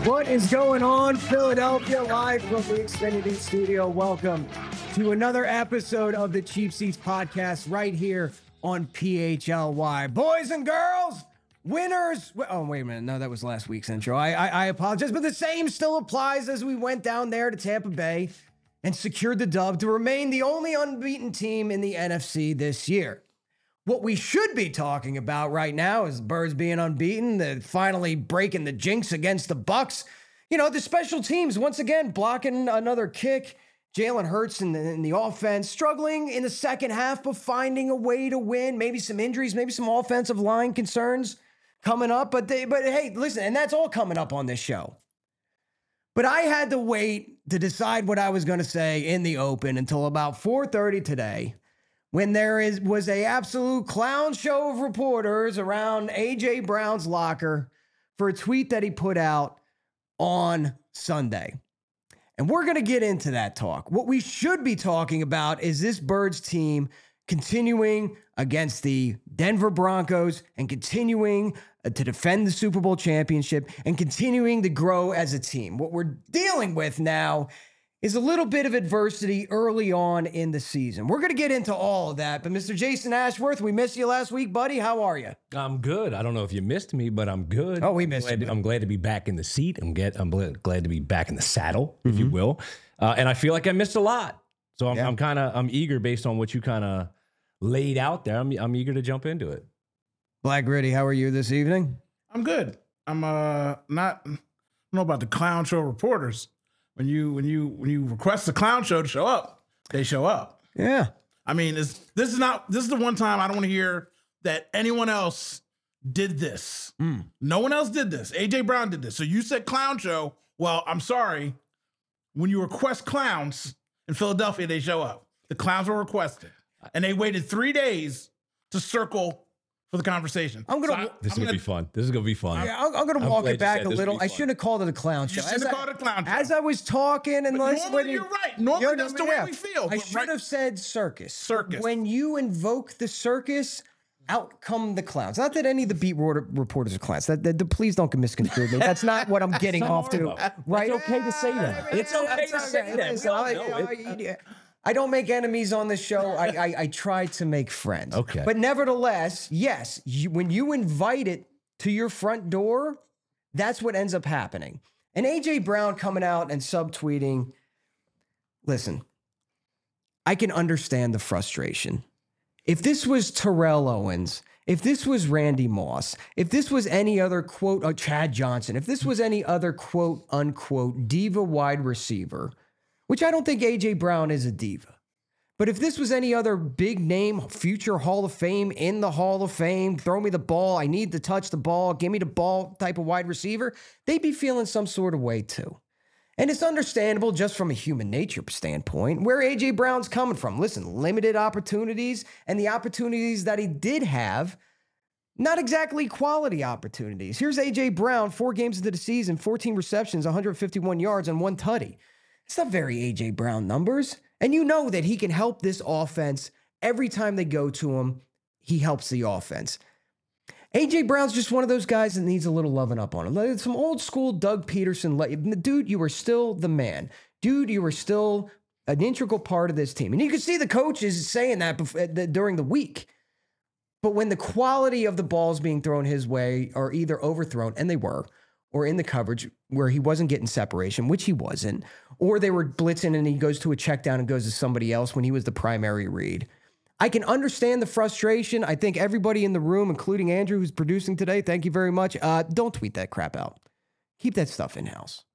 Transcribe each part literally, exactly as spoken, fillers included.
What is going on, Philadelphia? Live from the Xfinity Studio. Welcome to another episode of the Cheap Seats Podcast right here on P H L Y. Boys and girls, winners. Oh, wait a minute. No, that was last week's intro. I, I, I apologize, but the same still applies as we went down there to Tampa Bay and secured the dub to remain the only unbeaten team in the N F C this year. What we should be talking about right now is the Birds being unbeaten, the finally breaking the jinx against the Bucks. You know, the special teams, once again, blocking another kick. Jalen Hurts in the, in the offense, struggling in the second half, but finding a way to win. Maybe some injuries, maybe some offensive line concerns coming up. But, they, but hey, listen, and that's all coming up on this show. But I had to wait to decide what I was going to say in the open until about four thirty today, when there is was a absolute clown show of reporters around A J Brown's locker for a tweet that he put out on Sunday. And we're going to get into that talk. What we should be talking about is this Birds team continuing against the Denver Broncos and continuing to defend the Super Bowl championship and continuing to grow as a team. What we're dealing with now is a little bit of adversity early on in the season. We're going to get into all of that, but Mister Jason Ashworth, we missed you last week, buddy. How are you? I'm good. I don't know if you missed me, but I'm good. Oh, we missed I'm glad, you. to, I'm glad to be back in the seat. I'm, get, I'm glad to be back in the saddle, if Mm-hmm. you will. Uh, and I feel like I missed a lot. So I'm, Yeah. I'm kind of I'm eager based on what you kind of laid out there. I'm, I'm eager to jump into it. Black Gritty, how are you this evening? I'm good. I'm uh not I don't know about the clown show reporters. When you when you when you request the clown show to show up, they show up. Yeah. I mean, it's, this is not this is the one time I don't want to hear that anyone else did this. Mm. No one else did this. A J Brown did this. So you said clown show. Well, I'm sorry. When you request clowns in Philadelphia, they show up. The clowns were requested, and they waited three days to circle for the conversation. I'm gonna. So I- This is I'm going to gonna- be fun. This is going to be fun. Yeah, I'm, I'm going to I'm walk glad it you back said a this would little. be I fun. shouldn't have called it a clown show. You shouldn't As have I- called it a clown show. As I was talking, and But let's- normally when you- you're right. Normally You're- that's the yeah. way we feel. I But should right- have said circus. Circus. When you invoke the circus, out come the clowns. Not that any of the beat reporter- reporters are clowns. That, that, that- please don't get misconstrued. me. That's not what I'm getting off to. Right? It's okay to say that. It's okay to say that. Listen, We all I, know I- I- I don't make enemies on the show. I, I, I try to make friends. Okay. But nevertheless, yes, you, when you invite it to your front door, that's what ends up happening. And A J Brown coming out and subtweeting, listen, I can understand the frustration. If this was Terrell Owens, if this was Randy Moss, if this was any other quote, uh, Chad Johnson, if this was any other quote unquote diva wide receiver, which I don't think A J Brown is a diva, but if this was any other big name, future Hall of Fame, in the Hall of Fame, throw me the ball, I need to touch the ball, give me the ball type of wide receiver, they'd be feeling some sort of way too. And it's understandable just from a human nature standpoint where A J Brown's coming from. Listen, limited opportunities, and the opportunities that he did have, not exactly quality opportunities. Here's A J Brown, four games into the season, fourteen receptions, one hundred fifty-one yards, and one tutty. It's not very A J Brown numbers. And you know that he can help this offense every time they go to him. He helps the offense. A J Brown's just one of those guys that needs a little loving up on him. Like some old school Doug Peterson. Dude, you were still the man. Dude, you were still an integral part of this team. And you can see the coaches saying that before, during the week. But when the quality of the balls being thrown his way are either overthrown, and they were, or in the coverage where he wasn't getting separation, which he wasn't, or they were blitzing and he goes to a check down and goes to somebody else when he was the primary read. I can understand the frustration. I think everybody in the room, including Andrew, who's producing today, thank you very much. Uh, don't tweet that crap out. Keep that stuff in-house.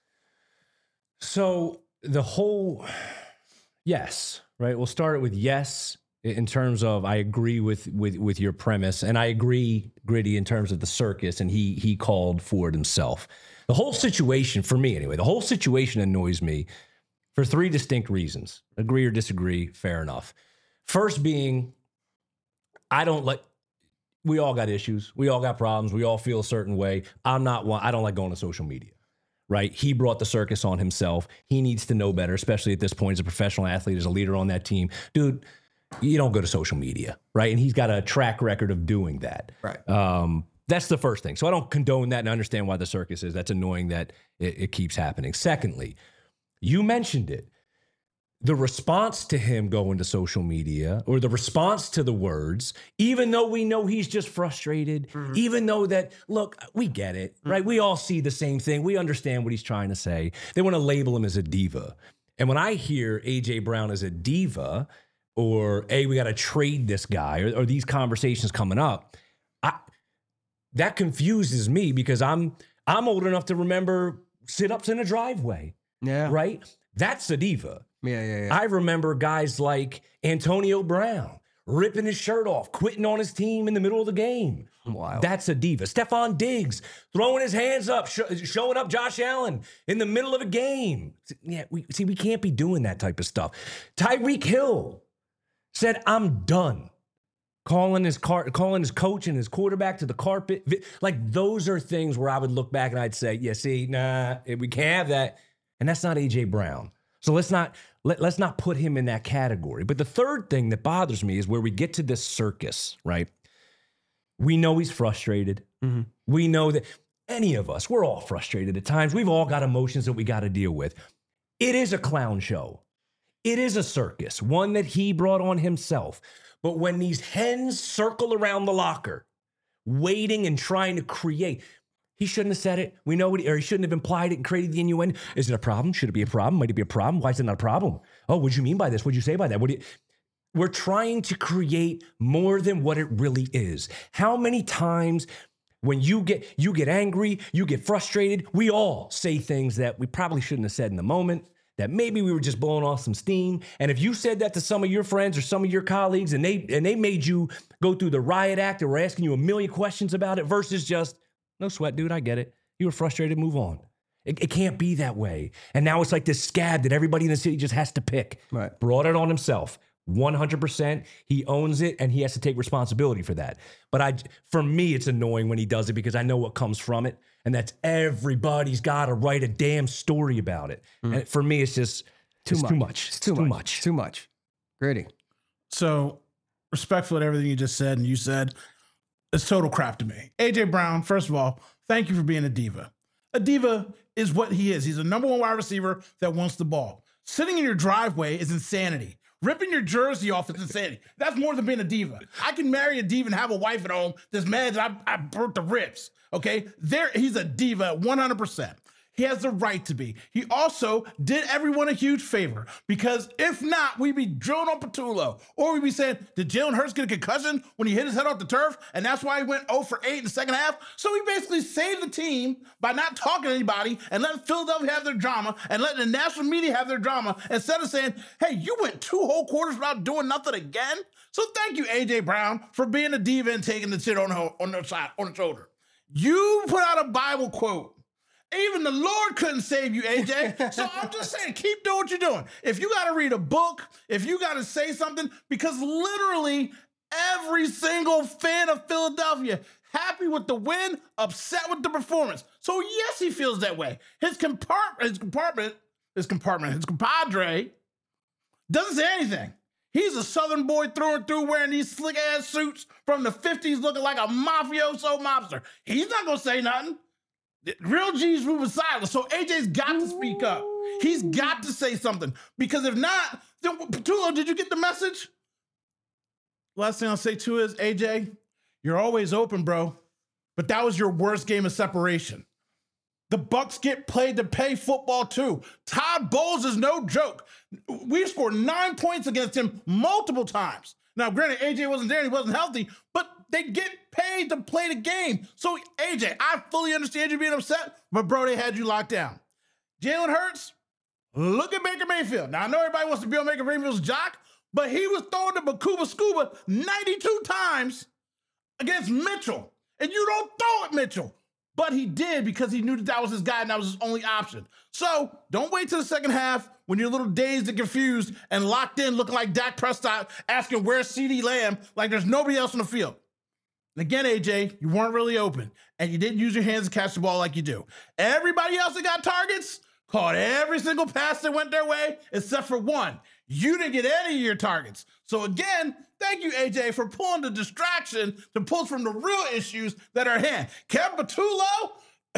So the whole, yes, right? We'll start it with yes in terms of I agree with with with your premise, and I agree, Gritty, in terms of the circus, and he he called for it himself. The whole situation, for me anyway, the whole situation annoys me for three distinct reasons. Agree or disagree, fair enough. First being, I don't like, we all got issues. We all got problems. We all feel a certain way. I'm not one, I don't like going to social media, right? He brought the circus on himself. He needs to know better, especially at this point as a professional athlete, as a leader on that team. Dude, you don't go to social media, right? And he's got a track record of doing that. Right. Um, That's the first thing. So I don't condone that and understand why the circus is. That's annoying that it, it keeps happening. Secondly, you mentioned it. The response to him going to social media, or the response to the words, even though we know he's just frustrated, mm-hmm. even though that, look, we get it, mm-hmm. right? We all see the same thing. We understand what he's trying to say. They want to label him as a diva. And when I hear A J Brown as a diva, or, hey, we got to trade this guy, or, or these conversations coming up, I, that confuses me because I'm I'm old enough to remember sit-ups in a driveway. Yeah. Right? That's a diva. Yeah, yeah, yeah. I remember guys like Antonio Brown ripping his shirt off, quitting on his team in the middle of the game. Wow. That's a diva. Stephon Diggs throwing his hands up, sh- showing up Josh Allen in the middle of a game. Yeah, we see, we can't be doing that type of stuff. Tyreek Hill said, I'm done. Calling his car, calling his coach and his quarterback to the carpet. Like, those are things where I would look back and I'd say, yeah, see, nah, we can't have that. And that's not A J Brown. So let's not let, let's not put him in that category. But the third thing that bothers me is where we get to this circus, right? We know he's frustrated. Mm-hmm. We know that any of us, we're all frustrated at times. We've all got emotions that we got to deal with. It is a clown show. It is a circus, one that he brought on himself. But when these hens circle around the locker, waiting and trying to create, he shouldn't have said it. We know what, he, or he shouldn't have implied it and created the innuendo. Is it a problem? Should it be a problem? Might it be a problem? Why is it not a problem? Oh, what do you mean by this? What do you say by that? What do you... We're trying to create more than what it really is. How many times when you get you get angry, you get frustrated, we all say things that we probably shouldn't have said in the moment, that maybe we were just blowing off some steam. And if you said that to some of your friends or some of your colleagues and they and they made you go through the riot act and were asking you a million questions about it versus just, no sweat, dude, I get it. You were frustrated, move on. It, it can't be that way. And now it's like this scab that everybody in the city just has to pick. Right. Brought it on himself. one hundred percent. He owns it and he has to take responsibility for that. But I, for me, it's annoying when he does it because I know what comes from it. And that's everybody's got to write a damn story about it. Mm. And for me, it's just too it's much. too much. It's too, it's too much. much. It's too much. Grady. So respectful to everything you just said and you said, it's total crap to me. A J Brown, first of all, thank you for being a diva. A diva is what he is. He's a number one wide receiver that wants the ball. Sitting in your driveway is insanity. Ripping your jersey off is insanity. That's more than being a diva. I can marry a diva and have a wife at home that's mad that I, I burnt the ribs. Okay? There, he's a diva one hundred percent. He has the right to be. He also did everyone a huge favor because if not, we'd be drilling on Patullo. Or we'd be saying, did Jalen Hurts get a concussion when he hit his head off the turf? And that's why he went oh for eight in the second half? So he basically saved the team by not talking to anybody and letting Philadelphia have their drama and letting the national media have their drama instead of saying, hey, you went two whole quarters without doing nothing again? So thank you, A J Brown, for being a diva and taking the shit on the, on the side, on the shoulder. You put out a Bible quote. Even the Lord couldn't save you, A J. So I'm just saying, keep doing what you're doing. If you got to read a book, if you got to say something, because literally every single fan of Philadelphia, happy with the win, upset with the performance. So yes, he feels that way. His compartment, his compartment, his compartment, his compadre doesn't say anything. He's a Southern boy through and through wearing these slick ass suits from the fifties looking like a mafioso mobster. He's not going to say nothing. Real G's moving silent. So A J's got to speak up. He's got to say something. Because if not, then Patullo, did you get the message? Last thing I'll say too is, A J, you're always open, bro. But that was your worst game of separation. The Bucs get played to pay football too. Todd Bowles is no joke. We've scored nine points against him multiple times. Now, granted, A J wasn't there and he wasn't healthy, but they get paid to play the game. So, A J, I fully understand you being upset, but bro, they had you locked down. Jalen Hurts, look at Baker Mayfield. Now, I know everybody wants to be on Baker Mayfield's jock, but he was throwing the Bakuba Scuba ninety-two times against Mitchell. And you don't throw at Mitchell. But he did because he knew that that was his guy and that was his only option. So don't wait till the second half when you're a little dazed and confused and locked in looking like Dak Prescott asking where's CeeDee Lamb like there's nobody else on the field. And again, A J, you weren't really open and you didn't use your hands to catch the ball like you do. Everybody else that got targets caught every single pass that went their way except for one. You didn't get any of your targets. So again, thank you, A J, for pulling the distraction to pull from the real issues that are at hand. Kevin Patullo,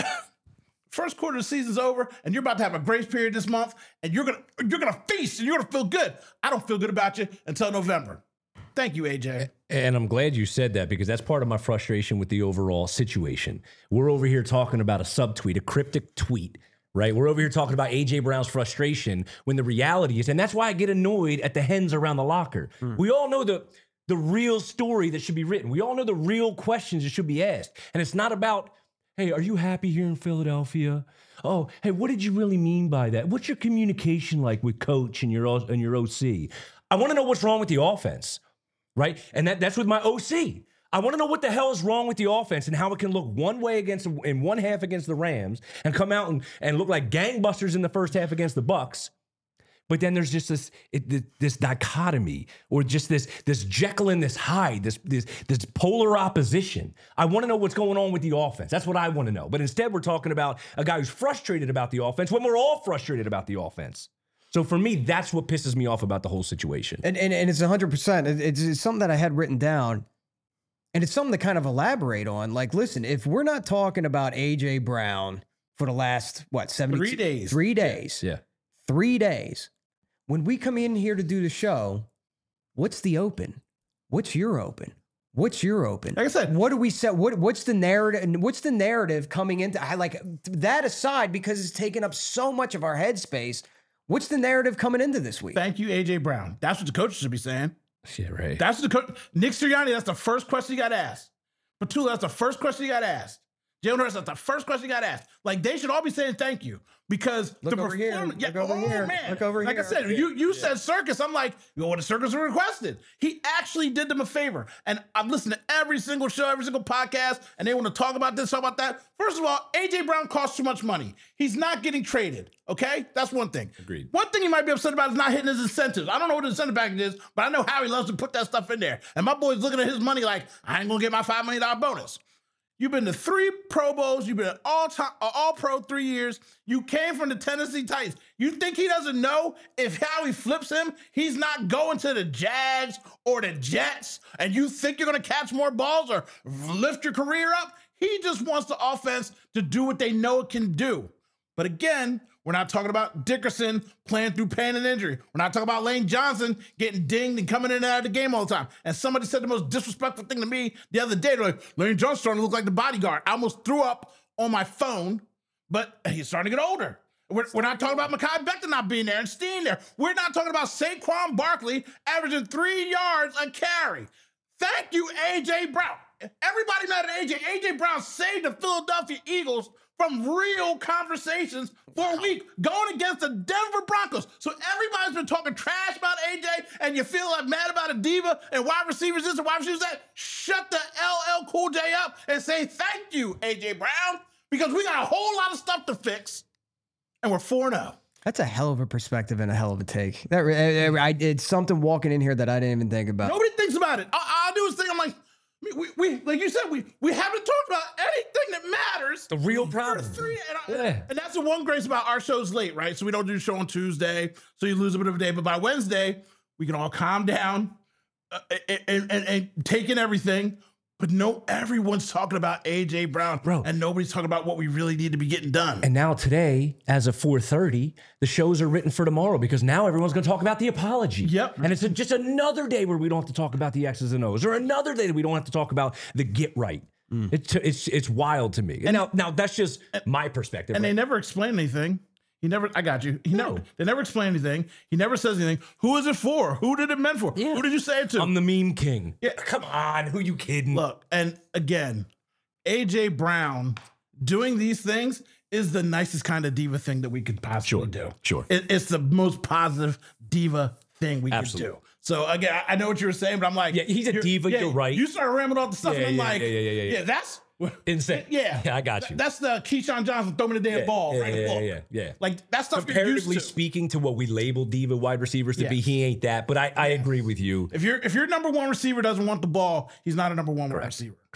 first quarter of the season's over, and you're about to have a grace period this month, and you're gonna you're gonna feast and you're gonna feel good. I don't feel good about you until November. Thank you, A J. And I'm glad you said that because that's part of my frustration with the overall situation. We're over here talking about a subtweet, a cryptic tweet, right? We're over here talking about A J Brown's frustration when the reality is, and that's why I get annoyed at the hens around the locker. Mm. We all know the the real story that should be written. We all know the real questions that should be asked. And it's not about, hey, are you happy here in Philadelphia? Oh, hey, what did you really mean by that? What's your communication like with coach and your and your O C? I want to know what's wrong with the offense. Right? And that, that's with my O C. I want to know what the hell is wrong with the offense and how it can look one way against in one half against the Rams and come out and, and look like gangbusters in the first half against the Bucks. But then there's just this it, this dichotomy or just this this Jekyll and this Hyde, this this this polar opposition. I want to know what's going on with the offense. That's what I want to know. But instead, we're talking about a guy who's frustrated about the offense when we're all frustrated about the offense. So for me, that's what pisses me off about the whole situation. And and, and it's one hundred percent. It's, it's something that I had written down, and it's something to kind of elaborate on. Like, listen, if we're not talking about A J Brown for the last, what, seventy Three days. Three days. Yeah. Three days. When we come in here to do the show, what's the open? What's your open? What's your open? Like I said, what do we say? What what's the narrative? What's the narrative coming into? I like that aside because it's taken up so much of our headspace. What's the narrative coming into this week? Thank you, A J Brown. That's what the coaches should be saying. Yeah, right. That's what the coach. Nick Sirianni, that's the first question you got asked. Patullo, that's the first question you got asked. Jalen Hurts, that's the first question you got asked. Like, they should all be saying thank you because Look the over here. performance. Yeah, Look over oh, here. man. Look over like here. I said, you you yeah. said circus. I'm like, you know what the circus requested. He actually did them a favor. And I've listened to every single show, every single podcast, and they want to talk about this, talk about that. First of all, A J Brown costs too much money. He's not getting traded. Okay? That's one thing. Agreed. One thing he might be upset about is not hitting his incentives. I don't know what his incentive package is, but I know how he loves to put that stuff in there. And my boy's looking at his money like, I ain't gonna get my five million dollars bonus. You've been to three Pro Bowls. You've been an all-time, all-pro three years. You came from the Tennessee Titans. You think he doesn't know if Howie flips him, he's not going to the Jags or the Jets, and you think you're going to catch more balls or lift your career up? He just wants the offense to do what they know it can do. But again, we're not talking about Dickerson playing through pain and injury. We're not talking about Lane Johnson getting dinged and coming in and out of the game all the time. And somebody said the most disrespectful thing to me the other day. They're like, Lane Johnson's starting to look like the bodyguard. I almost threw up on my phone, but he's starting to get older. We're, we're not talking about Mekhi Becton not being there and Steen there. We're not talking about Saquon Barkley averaging three yards a carry. Thank you, A J Brown. Everybody mad at A J. A J Brown saved the Philadelphia Eagles from real conversations for a week going against the Denver Broncos. So everybody's been talking trash about A J and you feel like mad about a diva and wide receivers this and wide receivers that. Shut the L L Cool J up and say thank you, A J Brown, because we got a whole lot of stuff to fix and we're four and oh. That's a hell of a perspective and a hell of a take. That I, I, it's something walking in here that I didn't even think about. Nobody thinks about it. I, I do is think, I'm like, We, we, like you said, we, we haven't talked about anything that matters. The real problem. Three, and, I, yeah. and that's the one grace about our show's late, right? So we don't do the show on Tuesday, so you lose a bit of a day. But by Wednesday, we can all calm down uh, and, and, and take in everything. But no, everyone's talking about A J Brown, bro, and nobody's talking about what we really need to be getting done. And now today, as of four thirty, the shows are written for tomorrow because now everyone's going to talk about the apology. Yep. And it's a, just another day where we don't have to talk about the X's and O's, or another day that we don't have to talk about the get right. Mm. It's it's it's wild to me. And now now that's just my perspective. And right? They never explain anything. He never, I got you. He no. never, they never explain anything. He never says anything. Who is it for? Who did it meant for? Yeah. Who did you say it to? I'm the meme king. Yeah. Come on. Who you kidding? Look, and again, A J Brown doing these things is the nicest kind of diva thing that we could possibly sure. do. Sure. It, it's the most positive diva thing we Absolutely. could do. So again, I, I know what you were saying, but I'm like, yeah, he's a you're, diva. Yeah, you're right. You started rambling all the stuff, yeah, and I'm yeah, like, yeah, yeah, yeah, yeah. yeah, that's insane. Yeah, yeah, I got you. That's the Keyshawn Johnson throw me the damn yeah, ball. Yeah, right yeah, ball. yeah, yeah, yeah. Like that stuff. You're used Comparatively to. speaking to what we label diva wide receivers to yes. be, he ain't that. But I, I agree with you. If your if your number one receiver doesn't want the ball, he's not a number one Correct. wide receiver. Correct.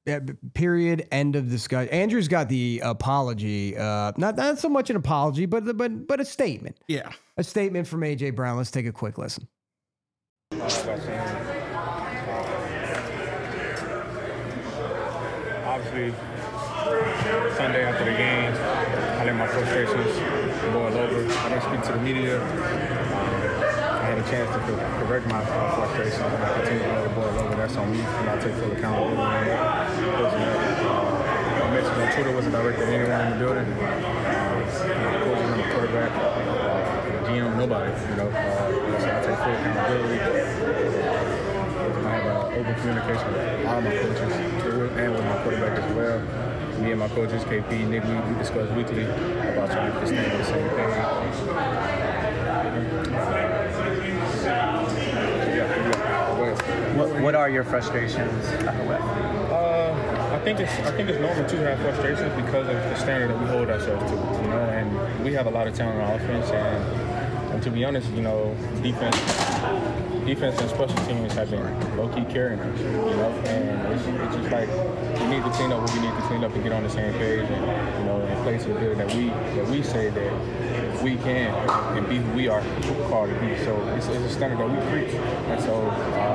Uh, period. End of discussion. Andrew's got the apology. Uh, not not so much an apology, but but but a statement. Yeah. A statement from A J Brown. Let's take a quick listen. Obviously, Sunday after the game, I let my frustrations boil over. I didn't speak to the media. Um, I had a chance to correct my frustrations, and I continue to let it boil over. That's on me, and I take full accountability on it. Uh, I mentioned on Twitter wasn't directed at anyone in the building. Uh, the coaches and the quarterback, uh, the G M, nobody. You know, uh, so I take full accountability. I have uh, open communication with all my coaches and with my quarterback as well. Me and my coaches, K P, Nick, we, we discuss weekly about trying to stay on the same page. What, what are your frustrations? Uh, I think it's I think it's normal to have frustrations because of the standard that we hold ourselves to, you know. And we have a lot of talent on offense, and, and to be honest, you know, defense. Defense and special teams have been low-key carrying us, you know, and it's, it's just like we need to clean up what we need to clean up and get on the same page, and you know, and play to the ability that we that we say that we can and be who we are called to be. So it's, it's a standard that we preach, and so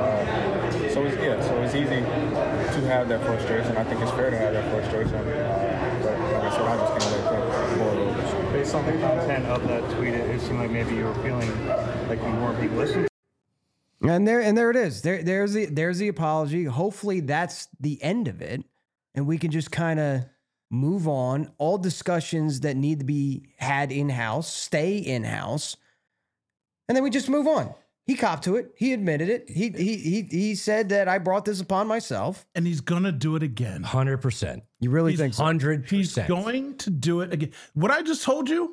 uh, so it's yeah, so it's easy to have that frustration. I think it's fair to have that frustration, uh, but like I said, I just can't let that boil over. Based on the content of that tweet, it, it seemed like maybe you were feeling like you weren't being listened to. And there and there it is. There there's the there's the apology. Hopefully that's the end of it, and we can just kind of move on. All discussions that need to be had in house stay in house, and then we just move on. He copped to it. He admitted it. He he he he said that I brought this upon myself, and he's gonna do it again. Hundred percent. You really He's think so? Hundred He's percent. going to do it again. What I just told you,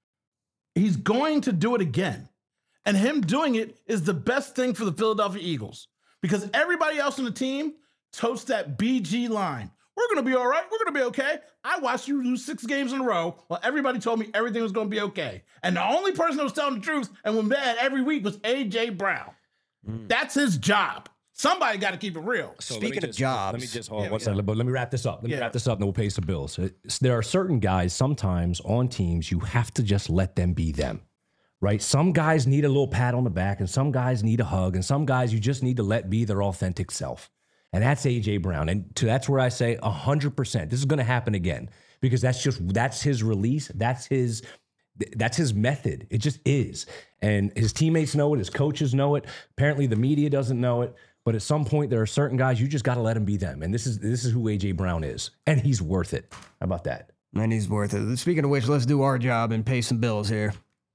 he's going to do it again. And him doing it is the best thing for the Philadelphia Eagles because everybody else on the team totes that B G line. We're going to be all right. We're going to be okay. I watched you lose six games in a row while everybody told me everything was going to be okay. And the only person that was telling the truth and was mad every week was A J Brown. Mm. That's his job. Somebody got to keep it real. So Speaking just, of jobs. let me just hold on Yeah, one yeah. second, but let me wrap this up. Let me Yeah. wrap this up and then we'll pay some bills. It's- There are certain guys sometimes on teams you have to just let them be them. Right? Some guys need a little pat on the back and some guys need a hug and some guys you just need to let be their authentic self. And that's A J Brown. And to, that's where I say one hundred percent. This is going to happen again because that's just, that's his release. That's his, that's his method. It just is. And his teammates know it. His coaches know it. Apparently the media doesn't know it. But at some point there are certain guys you just got to let them be them. And this is, this is who A J Brown is. And he's worth it. How about that? And he's worth it. Speaking of which, let's do our job and pay some bills here.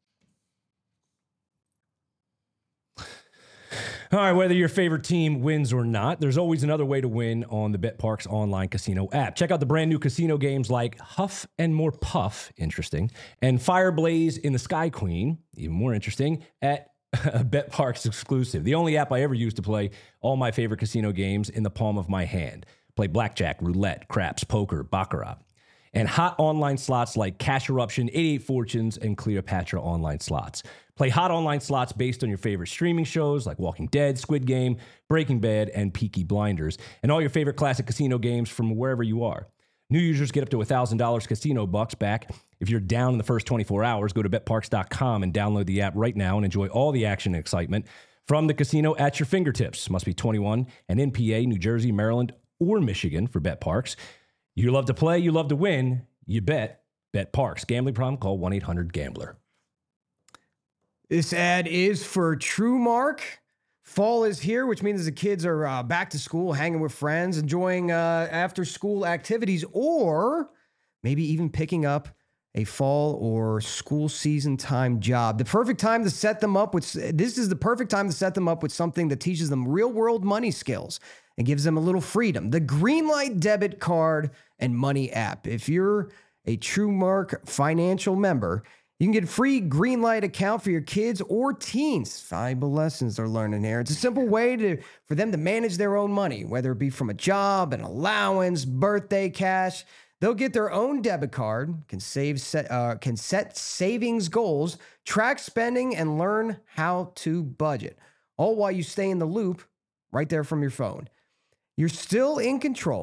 All right, whether your favorite team wins or not, there's always another way to win on the BetParx online casino app. Check out the brand new casino games like Huff and More Puff, interesting, and Fireblaze in the Sky Queen, even more interesting, at BetParx exclusive. The only app I ever used to play all my favorite casino games in the palm of my hand. Play blackjack, roulette, craps, poker, baccarat. And hot online slots like Cash Eruption, eighty-eight Fortunes, and Cleopatra online slots. Play hot online slots based on your favorite streaming shows like Walking Dead, Squid Game, Breaking Bad, and Peaky Blinders, and all your favorite classic casino games from wherever you are. New users get up to one thousand dollars casino bucks back. If you're down in the first twenty-four hours, go to bet parx dot com and download the app right now and enjoy all the action and excitement from the casino at your fingertips. Must be twenty-one and in P A, New Jersey, Maryland, or Michigan for BetParx. You love to play, you love to win, you bet. BetParx. Gambling problem? Call one eight hundred gambler. This ad is for TrueMark. Fall is here, which means the kids are uh, back to school, hanging with friends, enjoying uh, after-school activities, or maybe even picking up a fall or school season time job. The perfect time to set them up with, this is the perfect time to set them up with something that teaches them real-world money skills and gives them a little freedom. The Greenlight debit card and money app. If you're a TrueMark financial member, you can get a free Greenlight account for your kids or teens. Valuable lessons they're learning here. It's a simple way to for them to manage their own money, whether it be from a job, an allowance, birthday cash. They'll get their own debit card, can save set, uh, can set savings goals, track spending, and learn how to budget, all while you stay in the loop right there from your phone. You're still in control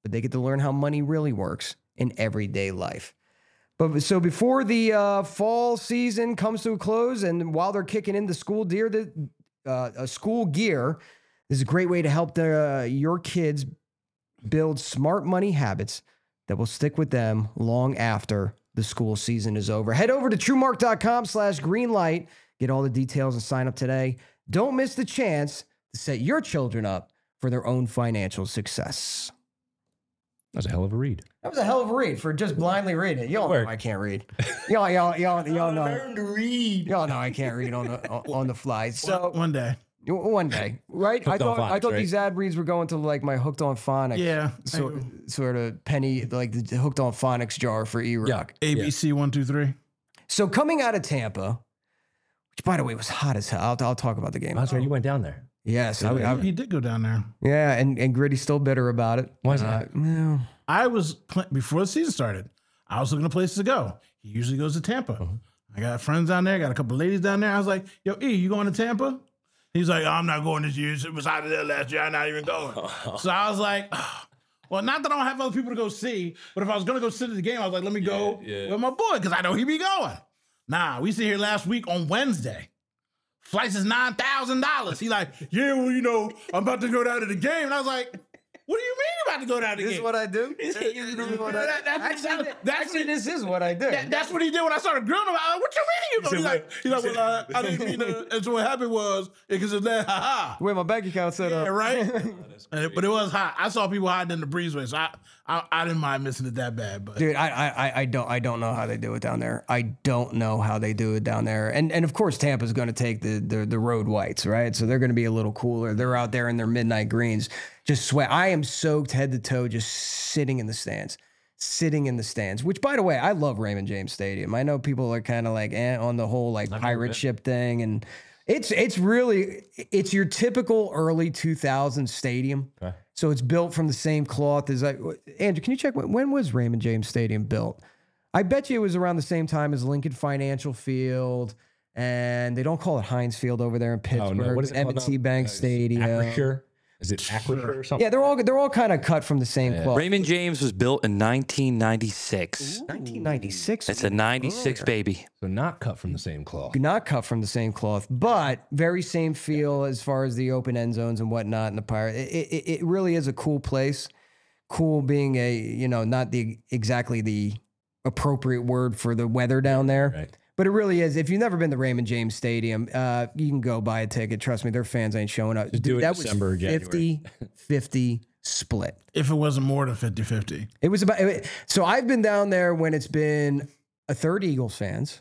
but they get to learn how money really works in everyday life. But so before the uh, fall season comes to a close, and while they're kicking in the school gear, the uh, a school gear is a great way to help the, uh, your kids build smart money habits that will stick with them long after the school season is over. Head over to truemark.com slash greenlight. Get all the details and sign up today. Don't miss the chance to set your children up for their own financial success. That's a hell of a read. That was a hell of a read for just blindly reading it. Y'all know I can't read. Y'all, y'all, y'all, y'all know. Learn to read. Y'all know I can't read on the on the fly. So One day. one day, right? I Hooked on thought I phonics, thought right? these ad reads were going to like my hooked on phonics. Yeah. So, sort of penny like the hooked on phonics jar for E-Rock. A B C one, two, three. So coming out of Tampa, which by the way was hot as hell. I'll, I'll talk about the game. That's right. You went down there. Yes, I, I, He did go down there. yeah, and and Gritty's still bitter about it. Why is that? Uh, well, I was, pl- before the season started, I was looking at places to go. He usually goes to Tampa. I got friends down there, got a couple ladies down there. I was like, yo, E, you going to Tampa? He's like, oh, I'm not going this year. It was out of there last year. I'm not even going. So I was like, oh. Well, not that I don't have other people to go see, but if I was going to go sit at the game, I was like, let me go yeah. with my boy because I know he be going. Nah, we sit here last week on Wednesday. Flights is nine thousand dollars. He like, yeah, well, you know, I'm about to go down to the game. And I was like, what do you mean you're about to go down to the this game? is what I do. This This is what I- that- that's- Actually, that's- actually, this is what I do. That- that's what he did when I started grilling him. I was like, what you mean you go? He's like, he's like, well, I, I didn't mean to. And so what happened was, because of that, ha ha. Where my bank account set up. Yeah, right? And it- but it was hot. I saw people hiding in the breezeway, so I, I, I didn't mind missing it that bad. But Dude, I, I I don't I don't know how they do it down there. I don't know how they do it down there. And and of course Tampa's going to take the, the the road whites, right? So they're going to be a little cooler. They're out there in their midnight greens, just sweat. I am soaked head to toe, just sitting in the stands, sitting in the stands. Which, by the way, I love Raymond James Stadium. I know people are kind of like eh, on the whole like pirate ship thing, and it's it's really it's your typical early two thousands stadium. Okay. So it's built from the same cloth as I. Andrew, can you check when, when was Raymond James Stadium built? I bet you it was around the same time as Lincoln Financial Field, and they don't call it Heinz Field over there in Pittsburgh. Oh, no. What is it M called and T now? Bank Uh, is it Stadium. Acrisure? Is it Acrisure or something? Yeah, they're all they're all kind of cut from the same cloth. Raymond James was built in nineteen ninety-six. nineteen ninety-six. It's a ninety-six baby. So not cut from the same cloth. Not cut from the same cloth, but very same feel as far as the open end zones and whatnot in the Pirate. It, it, it really is a cool place. Cool being a, you know, not the exactly the appropriate word for the weather down there. Right. But it really is. If you've never been to Raymond James Stadium, uh, you can go buy a ticket. Trust me, their fans ain't showing up. Just do it that December or was January. fifty fifty split. if it wasn't more than fifty-fifty. It was about it, so I've been down there when it's been a third Eagles fans,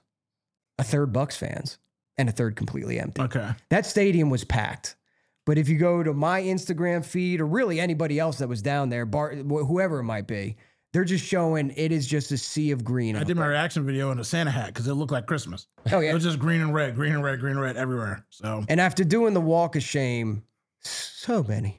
a third Bucks fans, and a third completely empty. Okay. That stadium was packed. But if you go to my Instagram feed or really anybody else that was down there, Bar, wh- whoever it might be, they're just showing it is just a sea of green. I out did my there. reaction video in a Santa hat because it looked like Christmas. Oh It yeah. was just green and red, green and red, green and red everywhere. So And after doing the walk of shame so many,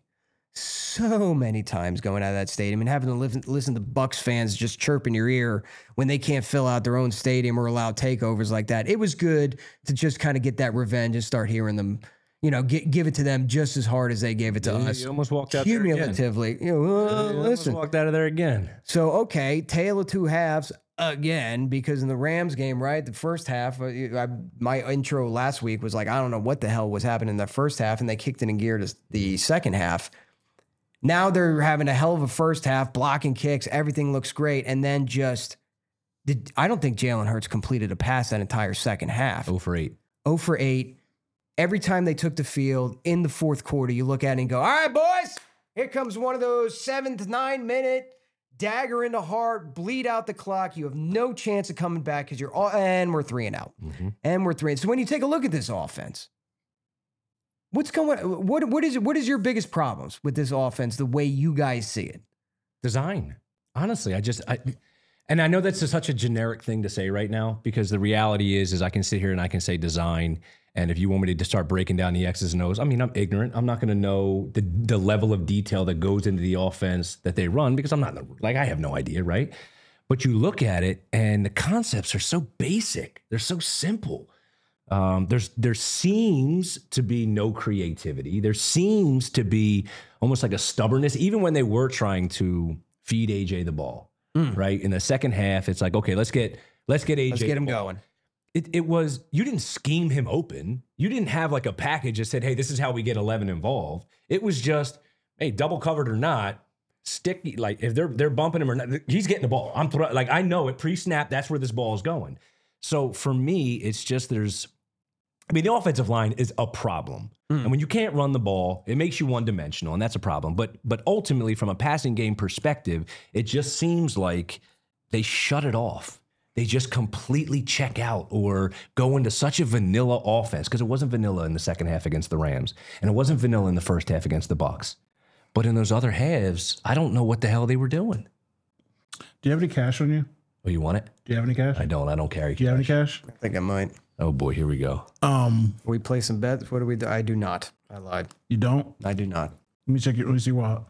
so many times going out of that stadium and having to listen, listen to Bucks fans just chirp in your ear when they can't fill out their own stadium or allow takeovers like that, it was good to just kind of get that revenge and start hearing them, you know, gi- give it to them just as hard as they gave it to You- us. You almost walked out there again. Cumulatively. You know, uh, You almost listen. walked out of there again. So, okay, tale of two halves again, because in the Rams game, right, the first half, uh, I, my intro last week was like, I don't know what the hell was happening in the first half, and they kicked it in gear to the second half. Now they're having a hell of a first half, blocking kicks, everything looks great, and then just, did, I don't think Jalen Hurts completed a pass that entire second half. Oh for eight. oh for eight. Every time they took the field in the fourth quarter, you look at it and go, all right, boys, here comes one of those seven to nine minute dagger in the heart, bleed out the clock. You have no chance of coming back because you're all, and we're three and out. Mm-hmm. And we're three. And so when you take a look at this offense, what's going what what is what is your biggest problems with this offense, the way you guys see it? Design. Honestly, I just I and I know that's a, such a generic thing to say right now because the reality is is I can sit here and I can say design. And if you want me to start breaking down the X's and O's, I mean, I'm ignorant. I'm not going to know the the level of detail that goes into the offense that they run because I'm not like I have no idea, right? But you look at it and the concepts are so basic. They're so simple. Um, there's there seems to be no creativity. There seems to be almost like a stubbornness, even when they were trying to feed A J the ball, mm. right? In the second half, it's like, okay, let's get let's get A J. Let's get him going. It, it was, you didn't scheme him open. You didn't have like a package that said, hey, this is how we get eleven involved. It was just, hey, double covered or not, stick, like if they're they're bumping him or not, he's getting the ball. I'm throw, like, I know it pre-snap, that's where this ball is going. So for me, it's just there's, I mean, the offensive line is a problem. Mm. And when you can't run the ball, it makes you one-dimensional, and that's a problem. But but ultimately, from a passing game perspective, it just seems like they shut it off. They just completely check out or go into such a vanilla offense, because it wasn't vanilla in the second half against the Rams, and it wasn't vanilla in the first half against the Bucs. But in those other halves, I don't know what the hell they were doing. Do you have any cash on you? Oh, you want it? Do you have any cash? I don't. I don't carry cash. Do you have any cash? I think I might. Oh, boy, here we go. Um, We play some bets. What do we do? I do not. I lied. You don't? I do not. Let me check your, let me see what.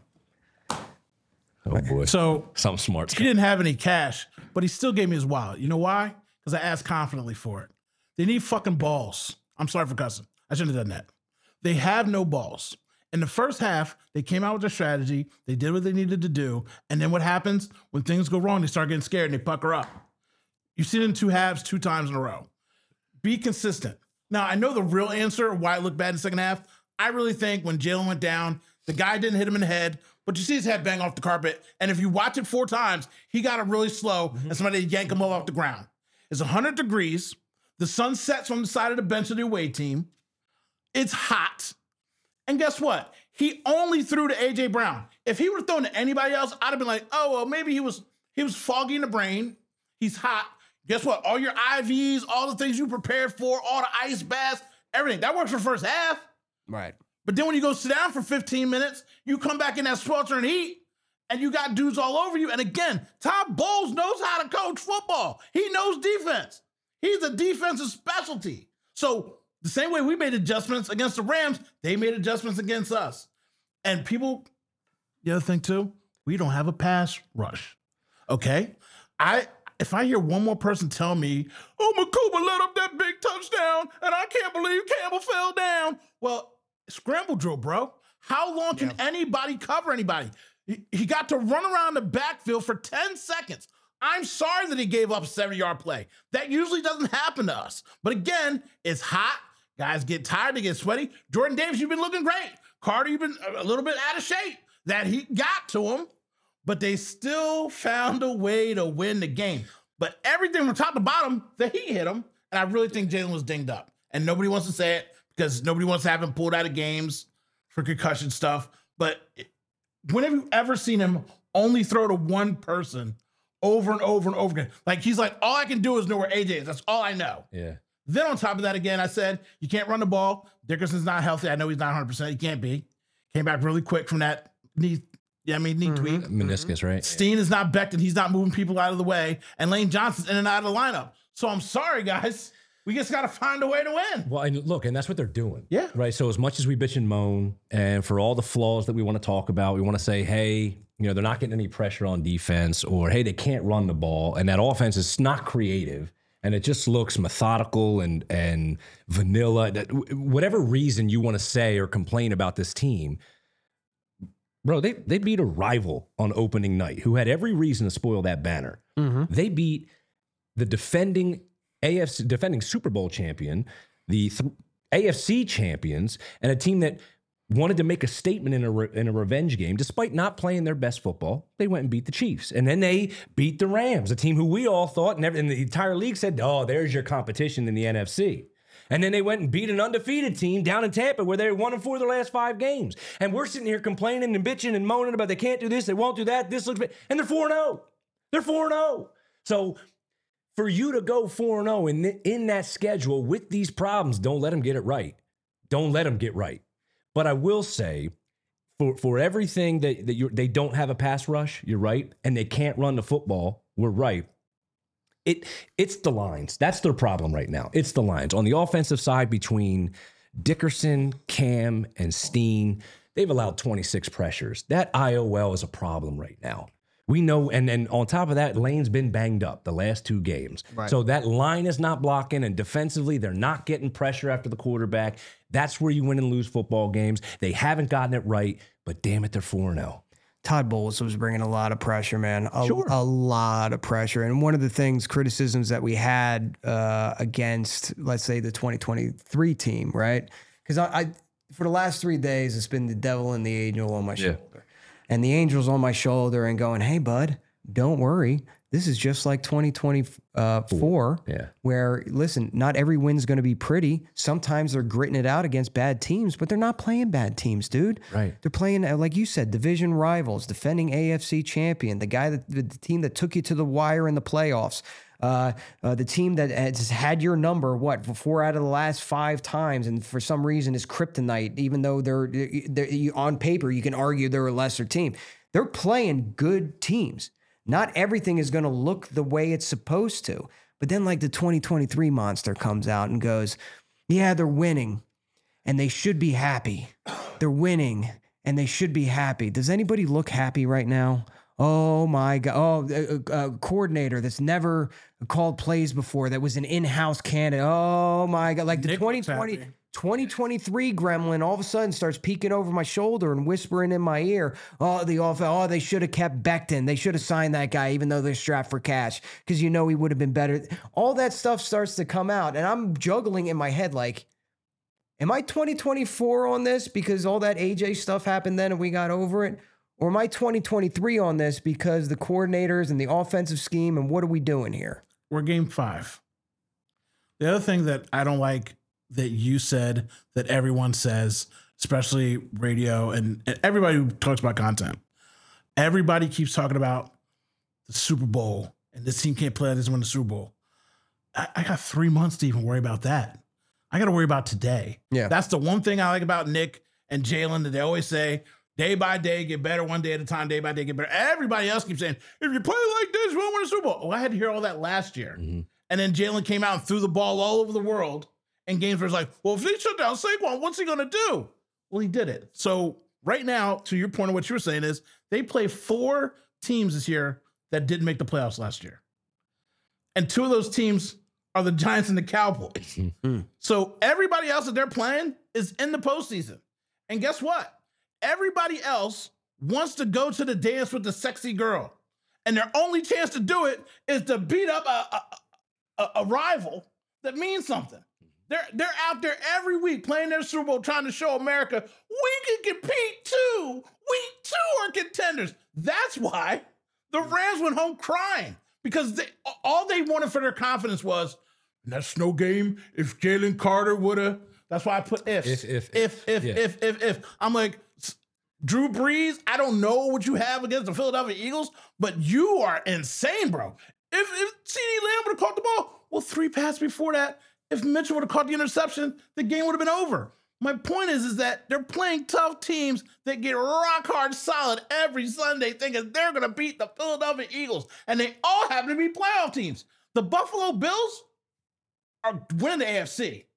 Oh, boy. So Something smart. he didn't have any cash, but he still gave me his wallet. You know why? Because I asked confidently for it. They need fucking balls. I'm sorry for cussing. I shouldn't have done that. They have no balls. In the first half, they came out with their strategy. They did what they needed to do. And then what happens? When things go wrong, they start getting scared and they pucker up. You see it in two halves, two times in a row. Be consistent. Now, I know the real answer why it looked bad in the second half. I really think when Jalen went down, the guy didn't hit him in the head, but you see his head bang off the carpet. And if you watch it four times, he got it really slow, mm-hmm. and somebody yanked him off the ground. It's one hundred degrees. The sun sets on the side of the bench of the away team. It's hot. And guess what? He only threw to A J Brown. If he would have thrown to anybody else, I'd have been like, oh, well, maybe he was he was foggy in the brain. He's hot. Guess what? All your I Vs, all the things you prepared for, all the ice baths, everything. That works for the first half. Right. But then when you go sit down for fifteen minutes, you come back in that sweltering heat, and you got dudes all over you. And again, Todd Bowles knows how to coach football. He knows defense. He's a defensive specialty. So the same way we made adjustments against the Rams, they made adjustments against us. And people, the other thing too, we don't have a pass rush. Okay? I if I hear one more person tell me, oh, Makuba let up that big touchdown, and I can't believe Campbell fell down. Well, scramble drill, bro. How long can yeah. anybody cover anybody? He, he got to run around the backfield for ten seconds. I'm sorry that he gave up a seventy-yard play. That usually doesn't happen to us. But again, it's hot. Guys get tired, they get sweaty. Jordan Davis, you've been looking great. Carter, you've been a little bit out of shape. That he got to him, but they still found a way to win the game. But everything from top to bottom, the heat hit him. And I really think Jalen was dinged up. And nobody wants to say it because nobody wants to have him pulled out of games for concussion stuff. But when have you ever seen him only throw to one person over and over and over again? Like, he's like, all I can do is know where A J is. That's all I know. Yeah. Then on top of that, again, I said, you can't run the ball. Dickerson's not healthy. I know he's not one hundred percent. He can't be. Came back really quick from that knee, yeah, I mean, knee mm-hmm. tweak. Meniscus, right? Steen is not Becton. He's not moving people out of the way. And Lane Johnson's in and out of the lineup. So I'm sorry, guys. We just got to find a way to win. Well, and look, and that's what they're doing. Yeah. Right. So as much as we bitch and moan, and for all the flaws that we want to talk about, we want to say, hey, you know, they're not getting any pressure on defense, or hey, they can't run the ball, and that offense is not creative, and it just looks methodical and and vanilla. That whatever reason you want to say or complain about this team, bro, they they beat a rival on opening night who had every reason to spoil that banner. Mm-hmm. They beat the defending A F C defending Super Bowl champion, the th- A F C champions, and a team that wanted to make a statement in a re- in a revenge game, despite not playing their best football. They went and beat the Chiefs, and then they beat the Rams, a team who we all thought, and, every, and the entire league said, "Oh, there's your competition in the N F C." And then they went and beat an undefeated team down in Tampa, where they won and four of their last five games. And we're sitting here complaining and bitching and moaning about they can't do this, they won't do that. This looks bad, and they're four and zero. They're four and zero. So for you to go four and zero in in that schedule with these problems, don't let them get it right. Don't let them get right. But I will say, for for everything that, that you they don't have a pass rush, you're right, and they can't run the football, we're right. It it's the lines. That's their problem right now. It's the lines. On the offensive side, between Dickerson, Cam, and Steen, they've allowed twenty-six pressures. That I O L is a problem right now. We know, and then on top of that, Lane's been banged up the last two games. Right. So that line is not blocking, and defensively, they're not getting pressure after the quarterback. That's where you win and lose football games. They haven't gotten it right, but damn it, they're four and oh. Todd Bowles was bringing a lot of pressure, man. A, Sure. a lot of pressure. And one of the things, criticisms that we had uh, against, let's say, the twenty twenty-three team, right? Because I, I, for the last three days, it's been the devil and the angel on my Yeah. shoulder. And the angel's on my shoulder and going, hey, bud, don't worry. This is just like twenty twenty-four, Yeah. where, listen, not every win's going to be pretty. Sometimes they're gritting it out against bad teams, but they're not playing bad teams, dude. Right. They're playing, uh, like you said, division rivals, defending A F C champion, the guy that the, the team that took you to the wire in the playoffs, uh, uh, the team that has had your number, what, for four out of the last five times, and for some reason is kryptonite, even though they're, they're on paper, you can argue they're a lesser team. They're playing good teams. Not everything is going to look the way it's supposed to. But then like the twenty twenty-three monster comes out and goes, yeah, they're winning and they should be happy. They're winning and they should be happy. Does anybody look happy right now? Oh my God. Oh, a, a coordinator that's never called plays before, that was an in-house candidate. Oh my God. Like the Nick twenty looks twenty, happy. twenty twenty-three gremlin all of a sudden starts peeking over my shoulder and whispering in my ear, oh, the off, oh, they should have kept Becton. They should have signed that guy, even though they're strapped for cash, because you know he would have been better. All that stuff starts to come out, and I'm juggling in my head like, am I twenty twenty-four on this because all that A J stuff happened then and we got over it? Or am I twenty twenty-three on this because the coordinators and the offensive scheme, and what are we doing here? We're game five. The other thing that I don't like that you said, that everyone says, especially radio and, and everybody who talks about content, everybody keeps talking about the Super Bowl and this team can't play, this win the Super Bowl. I, I got three months to even worry about that. I got to worry about today. Yeah. That's the one thing I like about Nick and Jalen, that they always say, day by day, get better, one day at a time, day by day, get better. Everybody else keeps saying, if you play like this, you won't win a Super Bowl. Well, I had to hear all that last year. Mm-hmm. And then Jalen came out and threw the ball all over the world in games where it's like, well, if they shut down Saquon, what's he going to do? Well, he did it. So right now, to your point of what you were saying is, they play four teams this year that didn't make the playoffs last year. And two of those teams are the Giants and the Cowboys. So everybody else that they're playing is in the postseason. And guess what? Everybody else wants to go to the dance with the sexy girl. And their only chance to do it is to beat up a, a, a, a rival that means something. They're, they're out there every week playing their Super Bowl, trying to show America, we can compete too. We too are contenders. That's why the Rams went home crying, because they, all they wanted for their confidence was, that's no game if Jalen Carter would have. That's why I put ifs. If, if, if, if, yeah. if, if, if. I'm like, Drew Brees, I don't know what you have against the Philadelphia Eagles, but you are insane, bro. If, if CeeDee Lamb would have caught the ball, well, three passes before that, if Mitchell would have caught the interception, the game would have been over. My point is, is that they're playing tough teams that get rock hard solid every Sunday, thinking they're going to beat the Philadelphia Eagles, and they all happen to be playoff teams. The Buffalo Bills are winning the A F C.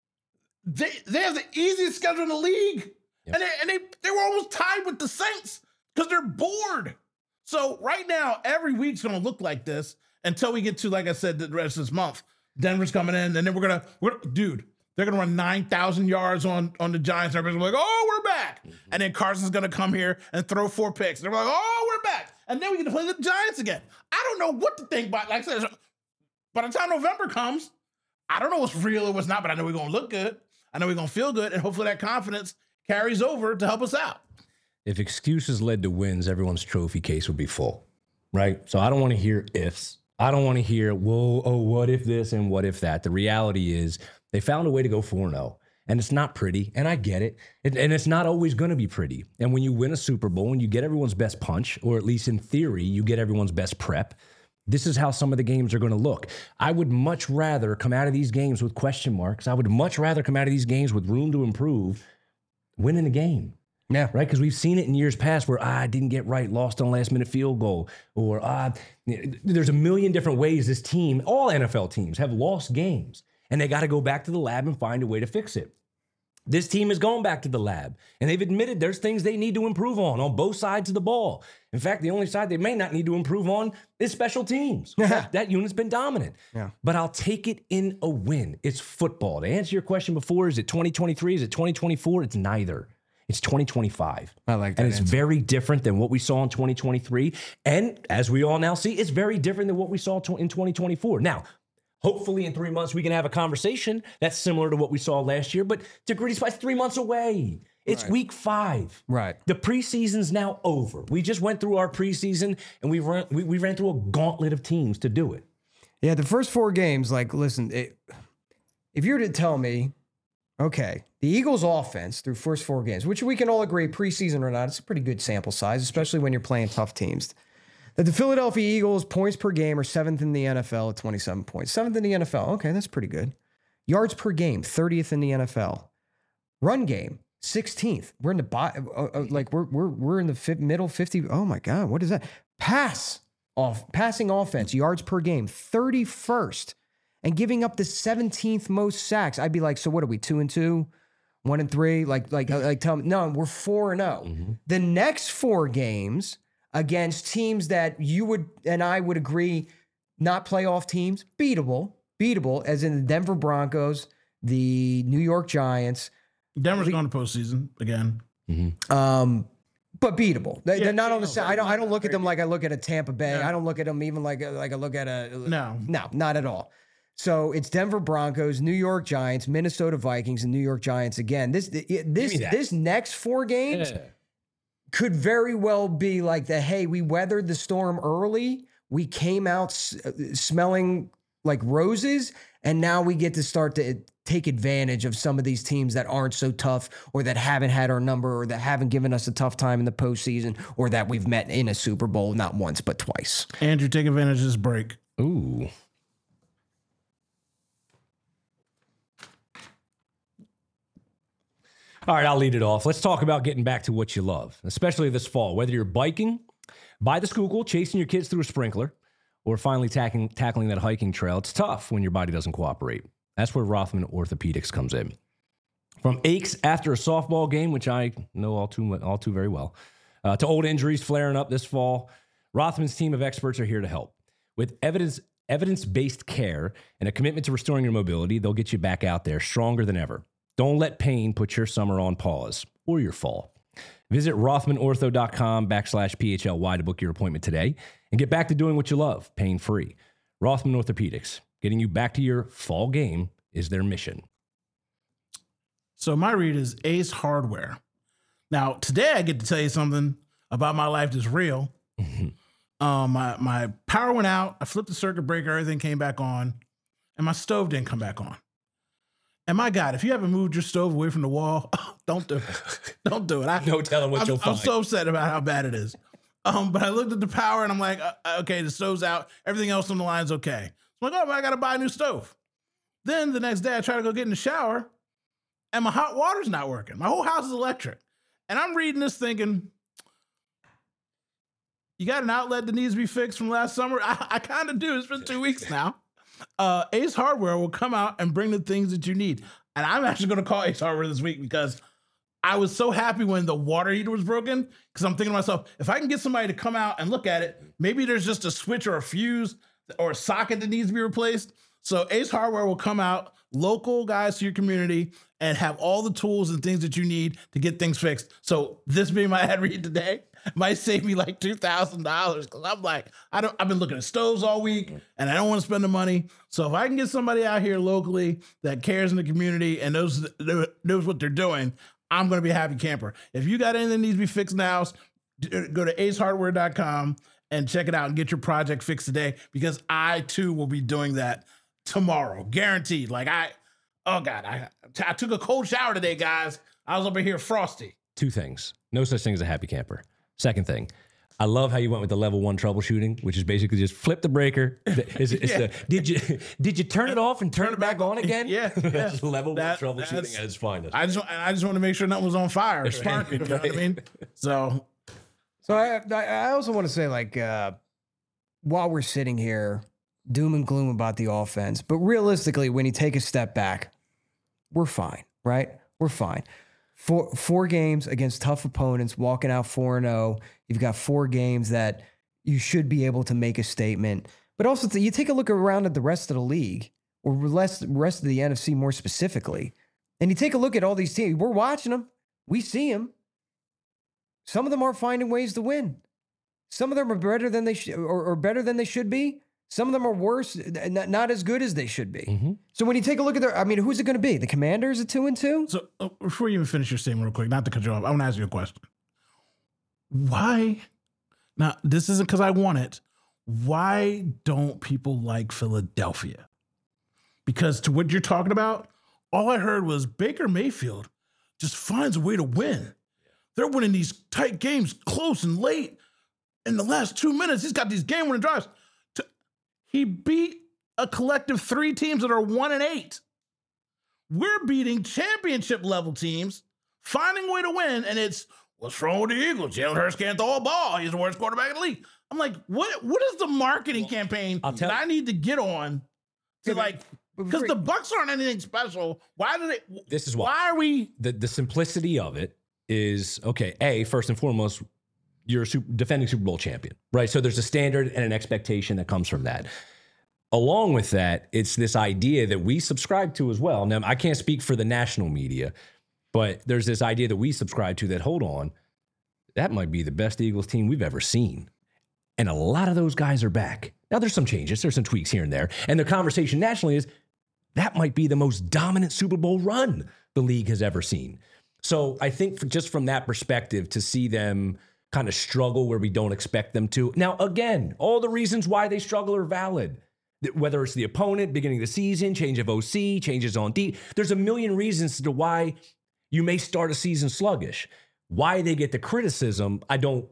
They they have the easiest schedule in the league. Yep. And, they, and they, they were almost tied with the Saints because they're bored. So right now, every week's going to look like this until we get to, like I said, the rest of this month. Denver's coming in, and then we're going to, we're, dude, they're going to run nine thousand yards on, on the Giants. Everybody's like, oh, we're back. Mm-hmm. And then Carson's going to come here and throw four picks. And they're like, oh, we're back. And then we get to play the Giants again. I don't know what to think about. Like I said, by the time November comes, I don't know what's real or what's not, but I know we're going to look good. I know we're going to feel good, and hopefully that confidence carries over to help us out. If excuses led to wins, everyone's trophy case would be full, right? So I don't want to hear ifs. I don't want to hear, whoa, oh, what if this and what if that? The reality is they found a way to go four and oh, and it's not pretty, and I get it, and, and it's not always going to be pretty. And when you win a Super Bowl and you get everyone's best punch, or at least in theory, you get everyone's best prep, this is how some of the games are going to look. I would much rather come out of these games with question marks. I would much rather come out of these games with room to improve, winning the game. Yeah. Right? Because we've seen it in years past where ah, I didn't get right, lost on a last minute field goal. Or ah, there's a million different ways this team, all N F L teams, have lost games. And they got to go back to the lab and find a way to fix it. This team is going back to the lab. And they've admitted there's things they need to improve on, on both sides of the ball. In fact, the only side they may not need to improve on is special teams. that, that unit's been dominant. Yeah. But I'll take it in a win. It's football. To answer your question before, is it twenty twenty-three? Is it twenty twenty-four? It's neither. It's twenty twenty-five. I like that And it's answer. very different than what we saw in twenty twenty-three. And as we all now see, it's very different than what we saw in twenty twenty-four. Now, hopefully in three months we can have a conversation that's similar to what we saw last year. But to Gritty Spice, three months away. It's Right. week five. Right. The preseason's now over. We just went through our preseason and we ran, we, we ran through a gauntlet of teams to do it. Yeah, the first four games, like, listen, it, if you were to tell me, okay, the Eagles' offense through first four games, which we can all agree, preseason or not, it's a pretty good sample size, especially when you're playing tough teams. That the Philadelphia Eagles points per game are seventh in the N F L at twenty-seven points. Seventh in the N F L. Okay, that's pretty good. Yards per game, thirtieth in the N F L. Run game, sixteenth. We're in the bottom, uh, uh, like we're we're we're in the fi- middle fifty. Oh my God, what is that? Pass off passing offense, yards per game, thirty-first, and giving up the seventeenth most sacks. I'd be like, so what are we? Two and two, one and three? Like like like tell me, no, we're four and zero. The next four games against teams that you would and I would agree not playoff teams, beatable, beatable, as in the Denver Broncos, the New York Giants. Denver's going to postseason again. Um, but beatable. They, Yeah, they're not yeah, on the no, same. I don't. I don't look at them like I look at a Tampa Bay. No. I don't look at them even like a, like I look at a No. no, not at all. So it's Denver Broncos, New York Giants, Minnesota Vikings, and New York Giants again. This this me that. this next four games could very well be like the hey, we weathered the storm early. We came out s- smelling like roses, and now we get to start to take advantage of some of these teams that aren't so tough or that haven't had our number or that haven't given us a tough time in the postseason or that we've met in a Super Bowl not once but twice. Andrew, take advantage of this break. Ooh. All right, I'll lead it off. Let's talk about getting back to what you love, especially this fall. Whether you're biking, by the Schuylkill, chasing your kids through a sprinkler, or finally tackling, tackling that hiking trail, it's tough when your body doesn't cooperate. That's where Rothman Orthopedics comes in. From aches after a softball game, which I know all too all too very well, uh, to old injuries flaring up this fall, Rothman's team of experts are here to help. With evidence evidence-based care and a commitment to restoring your mobility, they'll get you back out there stronger than ever. Don't let pain put your summer on pause or your fall. Visit rothmanortho.com backslash PHLY to book your appointment today and get back to doing what you love, pain-free. Rothman Orthopedics, getting you back to your fall game is their mission. So my read is Ace Hardware. Now, today I get to tell you something about my life that's real. um, my, my power went out. I flipped the circuit breaker. Everything came back on. And my stove didn't come back on. And my God, if you haven't moved your stove away from the wall, don't do it. Don't do it. I, No telling what I'm, you'll I'm find. so upset about how bad it is. Um, but I looked at the power and I'm like, uh, okay, the stove's out. Everything else on the line's okay. So I'm like, oh, I got to buy a new stove. Then the next day I try to go get in the shower and my hot water's not working. My whole house is electric. And I'm reading this thinking, you got an outlet that needs to be fixed from last summer? I, I kind of do. It's been two weeks now. Uh, Ace Hardware will come out and bring the things that you need. And I'm actually going to call Ace Hardware this week because I was so happy when the water heater was broken because I'm thinking to myself, if I can get somebody to come out and look at it, maybe there's just a switch or a fuse or a socket that needs to be replaced. So Ace Hardware will come out, local guys to your community, and have all the tools and things that you need to get things fixed. So this being my ad read today might save me like two thousand dollars because I'm like, I don't, I've been looking at stoves all week and I don't want to spend the money. So if I can get somebody out here locally that cares in the community and knows, knows what they're doing, I'm going to be a happy camper. If you got anything that needs to be fixed now, go to ace hardware dot com and check it out and get your project fixed today because I too will be doing that tomorrow. Guaranteed. Like I, oh God, I, I took a cold shower today, guys. I was over here frosty. Two things. No such thing as a happy camper. Second thing, I love how you went with the level one troubleshooting, which is basically just flip the breaker. It's, it's Yeah. the, did you did you turn it off and turn, it back on again? Yeah, yeah. That's level That- one that's- troubleshooting at its finest. I just, I just want to make sure nothing was on fire or sparking. You know what I mean? So So I I I also want to say like uh, while we're sitting here doom and gloom about the offense, but realistically, when you take a step back, we're fine, right? We're fine. Four four games against tough opponents, walking out four and zero. You've got four games that you should be able to make a statement. But also, th- you take a look around at the rest of the league, or less rest of the N F C more specifically, and you take a look at all these teams. We're watching them. We see them. Some of them are finding ways to win. Some of them are better than they should, or, or better than they should be. Some of them are worse, not, not as good as they should be. Mm-hmm. So when you take a look at their, I mean, who's it going to be? The Commanders at two and two? So uh, before you even finish your statement real quick, not to cut you off, I want to ask you a question. Why? Now, this isn't because I want it. Why don't people like Philadelphia? Because to what you're talking about, all I heard was Baker Mayfield just finds a way to win. They're winning these tight games close and late. In the last two minutes, he's got these game-winning drives. To, he beat a collective three teams that are one and eight. We're beating championship-level teams, finding a way to win, and it's, what's wrong with the Eagles? Jalen Hurts can't throw a ball. He's the worst quarterback in the league. I'm like, what? What is the marketing well, campaign I'll tell that I need to get on to, like, because the Bucs aren't anything special. Why do they? This is why. Why are we? The, the simplicity of it is, okay, A, first and foremost, you're a super, defending Super Bowl champion, right? So there's a standard and an expectation that comes from that. Along with that, it's this idea that we subscribe to as well. Now, I can't speak for the national media, but there's this idea that we subscribe to that, hold on, that might be the best Eagles team we've ever seen. And a lot of those guys are back. Now, there's some changes. There's some tweaks here and there. And the conversation nationally is that might be the most dominant Super Bowl run the league has ever seen. So I think just from that perspective, to see them kind of struggle where we don't expect them to. Now, again, all the reasons why they struggle are valid. Whether it's the opponent, beginning of the season, change of O C, changes on D. There's a million reasons to why you may start a season sluggish. Why they get the criticism, I don't,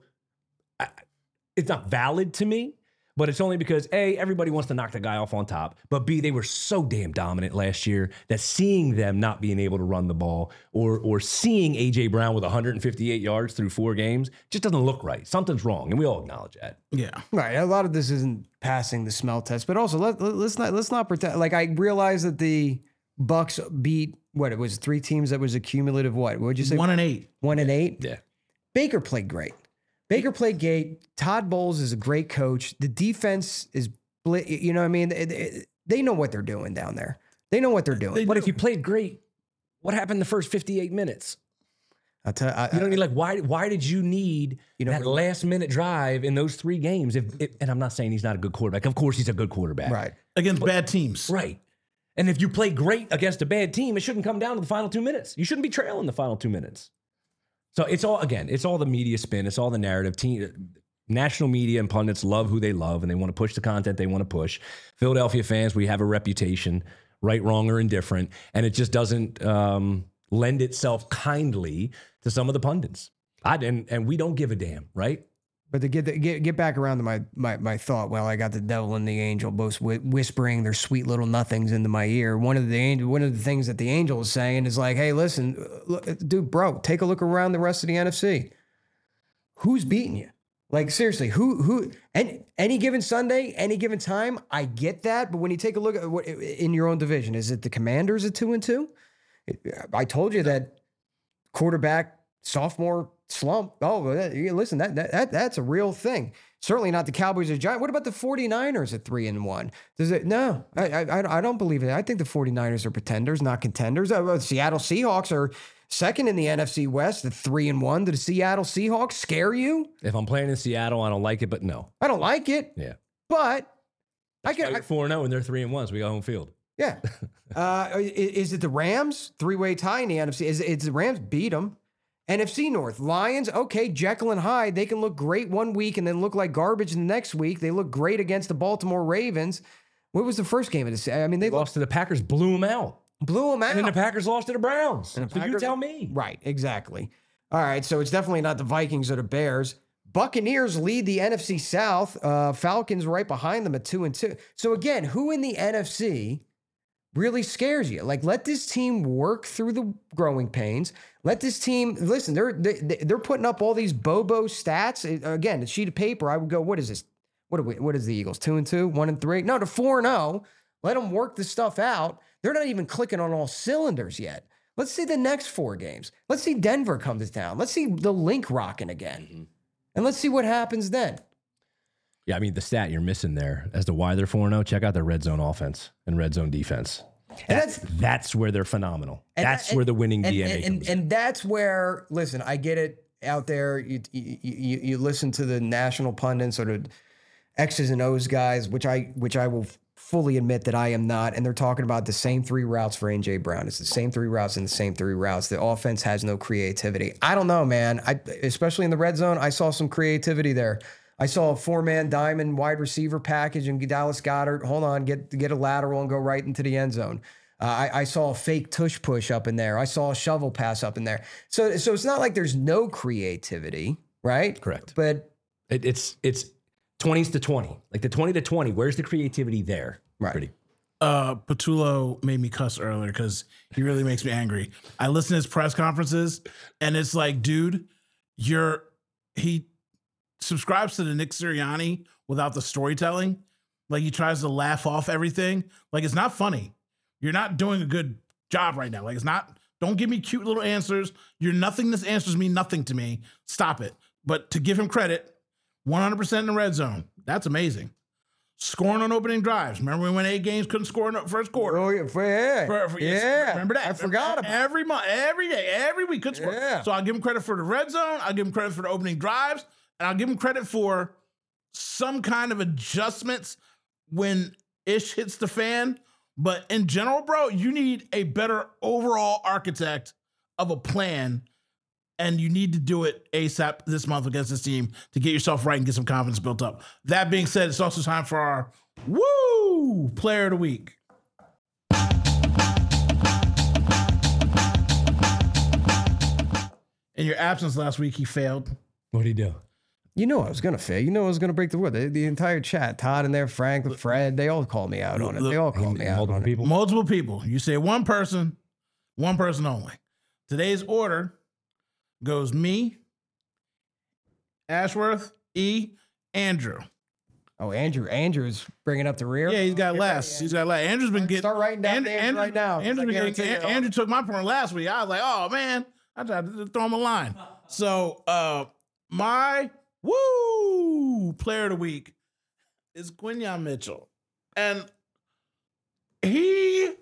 I, it's not valid to me, but it's only because A, everybody wants to knock the guy off on top, but B, they were so damn dominant last year that seeing them not being able to run the ball or or seeing A J Brown with one hundred fifty-eight yards through four games just doesn't look right. Something's wrong, and we all acknowledge that. Yeah. Right. A lot of this isn't passing the smell test, but also let, let, let's not let's not pretend. Like, I realize that the Bucs beat, what, it was three teams that was a cumulative what? What would you say? One and eight. One and eight? Yeah. Baker played great. Baker played great. Todd Bowles is a great coach. The defense is, you know what I mean? They, they know what they're doing down there. They know what they're doing. They But do. if you played great, what happened the first fifty-eight minutes? I'll tell I, You know what I mean? Like, why why did you need You know, that last minute drive in those three games? If, if And I'm not saying he's not a good quarterback. Of course he's a good quarterback. right. Against bad teams. Right. And if you play great against a bad team, it shouldn't come down to the final two minutes. You shouldn't be trailing the final two minutes. So it's all, again, it's all the media spin. It's all the narrative. Team, national media and pundits love who they love, and they want to push the content they want to push. Philadelphia fans, we have a reputation, right, wrong, or indifferent, and it just doesn't um, lend itself kindly to some of the pundits. I, and, and we don't give a damn, right? But to get, the, get get back around to my, my my thought, well, I got the devil and the angel both whi- whispering their sweet little nothings into my ear. One of the angel, one of the things that the angel is saying is like, hey, listen, look, dude, bro, take a look around the rest of the N F C. Who's beating you? Like, seriously, who who? And any given Sunday, any given time, I get that. But when you take a look at what in your own division, is it the Commanders at two and two? I told you that quarterback sophomore slump. Oh, listen, that, that that's a real thing. Certainly not the Cowboys or Giants. What about the 49ers at three and one? Does it? No, I, I I don't believe it. I think the 49ers are pretenders, not contenders. Uh, Seattle Seahawks are second in the N F C West at three and one. Do the Seattle Seahawks scare you? If I'm playing in Seattle, I don't like it, but no. I don't like it. Yeah. But I get I, four and oh, and they're three and one, so we got home field. yeah. uh, is, is it the Rams? Three-way tie in the N F C. Is it's the Rams beat them? N F C North, Lions, okay, Jekyll and Hyde, they can look great one week and then look like garbage the next week. They look great against the Baltimore Ravens. What was the first game of this? I mean, they Lost to the Packers, blew them out. blew them out. And then the Packers lost to the Browns. And the So you Packers- tell me. Right, exactly. All right, so it's definitely not the Vikings or the Bears. Buccaneers lead the N F C South. Uh, Falcons right behind them at two and two. So again, who in the N F C really scares you? Like, let this team work through the growing pains. Let this team listen. They're they, they're putting up all these Bobo stats. Again, a sheet of paper. I would go, what is this? What are we? What is the Eagles? Two and two, one and three? No, to four and zero. Let them work the stuff out. They're not even clicking on all cylinders yet. Let's see the next four games. Let's see Denver come to town. Let's see the link rocking again, mm-hmm. and let's see what happens then. Yeah, I mean, the stat you're missing there as to why they're four and oh, check out their red zone offense and red zone defense. And That's, that's where they're phenomenal. And That's that- where the winning and, D N A and, comes and, in. and that's where, listen, I get it. out there, you, you you you listen to the national pundits or the X's and O's guys, which I which I will fully admit that I am not, and they're talking about the same three routes for A J Brown. It's the same three routes and the same three routes. The offense has no creativity. I don't know, man. I especially in the red zone, I saw some creativity there. I saw a four-man diamond wide receiver package and Dallas Goedert. Hold on, get get a lateral and go right into the end zone. Uh, I, I saw a fake tush push up in there. I saw a shovel pass up in there. So so it's not like there's no creativity, right? Correct. But It, it's it's twenties to twenty, like the twenty to twenty. Where's the creativity there? Right. Pretty. Uh, Patullo made me cuss earlier because he really makes me angry. I listen to his press conferences, and it's like, dude, you're he subscribes to the Nick Sirianni without the storytelling. Like he tries to laugh off everything. Like it's not funny. You're not doing a good job right now. Like it's not. Don't give me cute little answers. Your nothingness answers mean nothing to me. Stop it. But to give him credit, one hundred percent in the red zone. That's amazing. Scoring on opening drives. Remember when we won eight games, couldn't score in the first quarter? oh yeah, for, yeah, For- for- yeah. Remember that? I forgot about every month, every day, every week. Could score. Yeah. So I'll give him credit for the red zone. I'll give him credit for the opening drives, and I'll give him credit for some kind of adjustments when ish hits the fan. But in general, bro, you need a better overall architect of a plan, and you need to do it ASAP this month against this team to get yourself right and get some confidence built up. That being said, it's also time for our Woo Player of the Week. In your absence last week, he failed. What do you do? You know I was gonna fail. You know I was gonna break the rule. The, the entire chat, Todd in there, Frank, Fred, they all called me out on it. They all called me out Multiple on it. people. Multiple people. You say one person, one person only. Today's order goes me, Ashworth, E, Andrew. Oh, Andrew, Andrew's bringing up the rear. Yeah, he's got last. He's got last. Andrew's been getting. Start writing down Andrew, names Andrew, right now. Andrew's been I getting. guarantee you. Andrew took my point last week. I was like, oh man, I tried to throw him a line. So, uh, my woo player of the week is Quinyon Mitchell, and he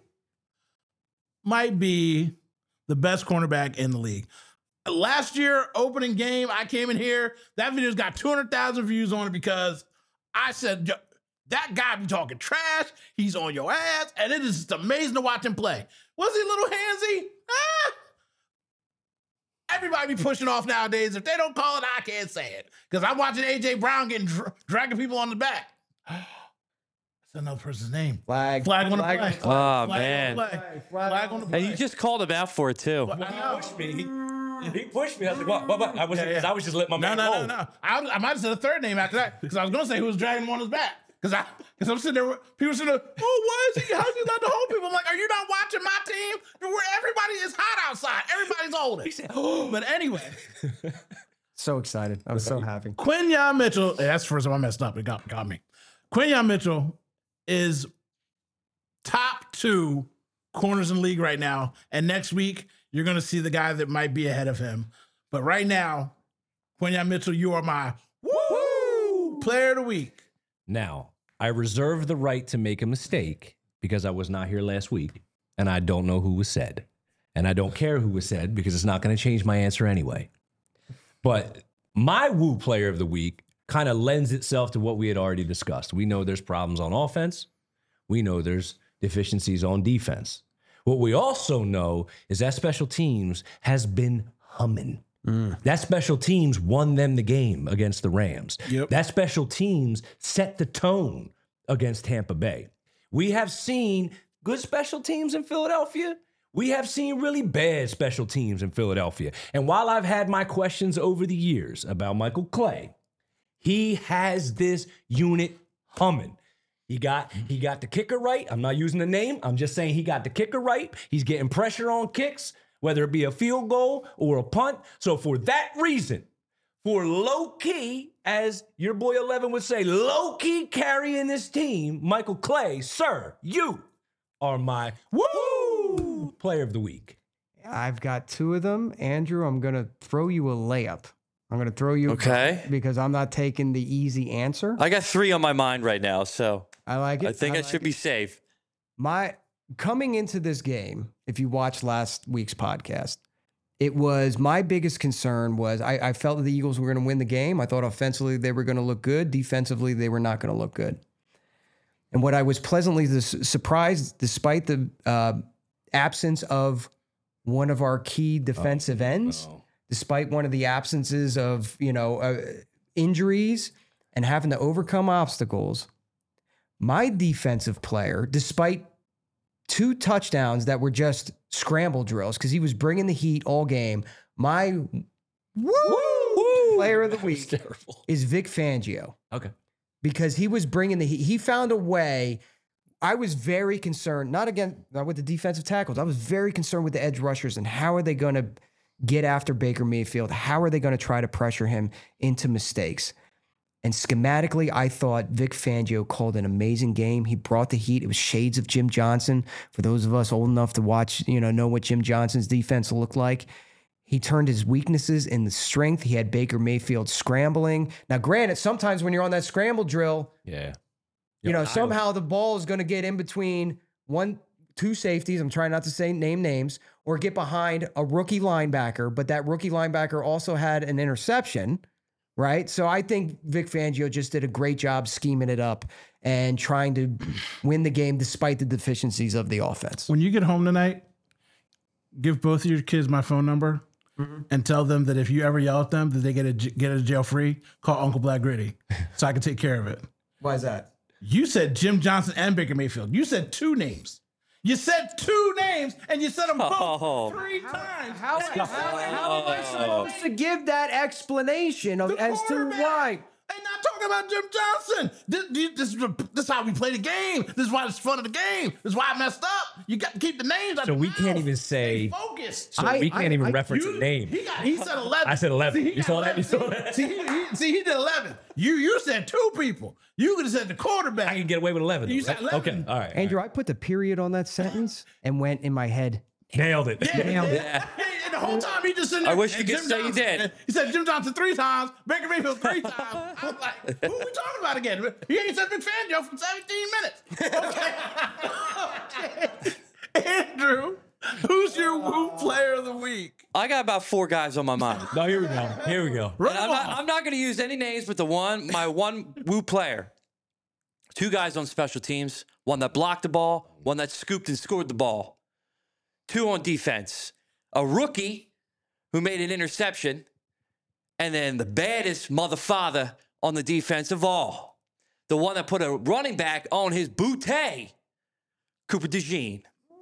might be the best cornerback in the league. Last year, opening game, I came in here. That video's got two hundred thousand views on it because I said, that guy be talking trash. He's on your ass. And it is just amazing to watch him play. Was he a little handsy? Ah! Everybody be pushing off nowadays. If they don't call it, I can't say it. Because I'm watching A J Brown getting dra- dragging people on the back. That's another person's name. Flag. Flag on the Flag play. on Oh, Flag man. on the play. Flag on the play. And you just called him out for it, too. I know. me. He pushed me. I was like, what? What? what? I was, Yeah, yeah. I was just letting my No, man no, roll. no, no. I, I might have said a third name after that because I was going to say who was dragging him on his back. Because I, because I'm sitting there, people sitting there, oh, why is he? How's he let the whole people? I'm like, are you not watching my team? Where everybody is hot outside. Everybody's holding. said, oh. But anyway, So excited. I'm so happy. Quinyon Mitchell, hey, that's the first time I messed up. It got, got me. Quinyon Mitchell is top two corners in the league right now. And next week, you're going to see the guy that might be ahead of him. But right now, Quinyon Mitchell, you are my woo player of the week. Now, I reserve the right to make a mistake because I was not here last week and I don't know who was said. And I don't care who was said because it's not going to change my answer anyway. But my woo player of the week kind of lends itself to what we had already discussed. We know there's problems on offense. We know there's deficiencies on defense. What we also know is that special teams has been humming. Mm. That special teams won them the game against the Rams. Yep. That special teams set the tone against Tampa Bay. We have seen good special teams in Philadelphia. We have seen really bad special teams in Philadelphia. And while I've had my questions over the years about Michael Clay, he has this unit humming. He got he got the kicker right. I'm not using the name. I'm just saying he got the kicker right. He's getting pressure on kicks, whether it be a field goal or a punt. So for that reason, for low-key, as your boy eleven would say, low-key carrying this team, Michael Clay, sir, you are my woo player of the week. I've got two of them. Andrew, I'm going to throw you a layup. I'm going to throw you Okay. a, because I'm not taking the easy answer. I got three on my mind right now, so I like it. I think I, like should it. be safe. My coming into this game, if you watched last week's podcast, it was my biggest concern was I, I felt that the Eagles were going to win the game. I thought offensively they were going to look good. Defensively, they were not going to look good. And what I was pleasantly dis- surprised, despite the uh, absence of one of our key defensive Oh, ends, no. despite one of the absences of, you know, uh, injuries and having to overcome obstacles, my defensive player, despite two touchdowns that were just scramble drills, because he was bringing the heat all game, my woo, player of the week Terrible. is Vic Fangio, Okay. because he was bringing the heat. He found a way. I was very concerned, not again, not with the defensive tackles. I was very concerned with the edge rushers and how are they going to get after Baker Mayfield? How are they going to try to pressure him into mistakes? And schematically, I thought Vic Fangio called an amazing game. He brought the heat. It was shades of Jim Johnson. For those of us old enough to watch, you know, know what Jim Johnson's defense looked like. He turned his weaknesses into strength. He had Baker Mayfield scrambling. Now, granted, sometimes when you're on that scramble drill, Yeah. you know, I- somehow the ball is going to get in between one, two safeties. I'm trying not to say name names, or get behind a rookie linebacker. But that rookie linebacker also had an interception, right? So I think Vic Fangio just did a great job scheming it up and trying to win the game despite the deficiencies of the offense. When you get home tonight, give both of your kids my phone number and tell them that if you ever yell at them that they get a get a jail free, call Uncle Black Gritty so I can take care of it. Why is that? You said Jim Johnson and Baker Mayfield. You said two names. You said two names and you said them both Oh. three times. How, how, how am I supposed to give that explanation of, The as to quarterback. why? And not talking about Jim Johnson. This, this, is this is how we play the game. This is why it's fun of the game. This is why I messed up. You got to keep the names out So your we mouth. can't even say- Stay focused. So I- we can't I- even I- reference You- a name. He got. He said eleven. I said eleven. he You got saw that? You saw eleven. that? See, he, he- see, he did eleven. You you said two people. You could have said the quarterback. I can get away with eleven. You though, said right? eleven. Okay. All right. Andrew, I put the period on that sentence and went in my head. Nailed it. Yeah, Nailed it. yeah. And the whole time he just sitting there. I wish you and could Jim say you Johnson- did. He said Jim Johnson three times, Baker Mayfield three times. I was like, who are we talking about again? He ain't said Vic Fangio for seventeen minutes. Okay. okay. Andrew, who's your woo player of the week? I got about four guys on my mind. No, here we go. Here we go. Run And I'm them not, off. I'm not going to use any names, but the one, my one woo player. Two guys on special teams, one that blocked the ball, one that scooped and scored the ball. Two on defense. A rookie who made an interception, and then the baddest mother father on the defense of all. The one that put a running back on his bootay, Cooper DeJean.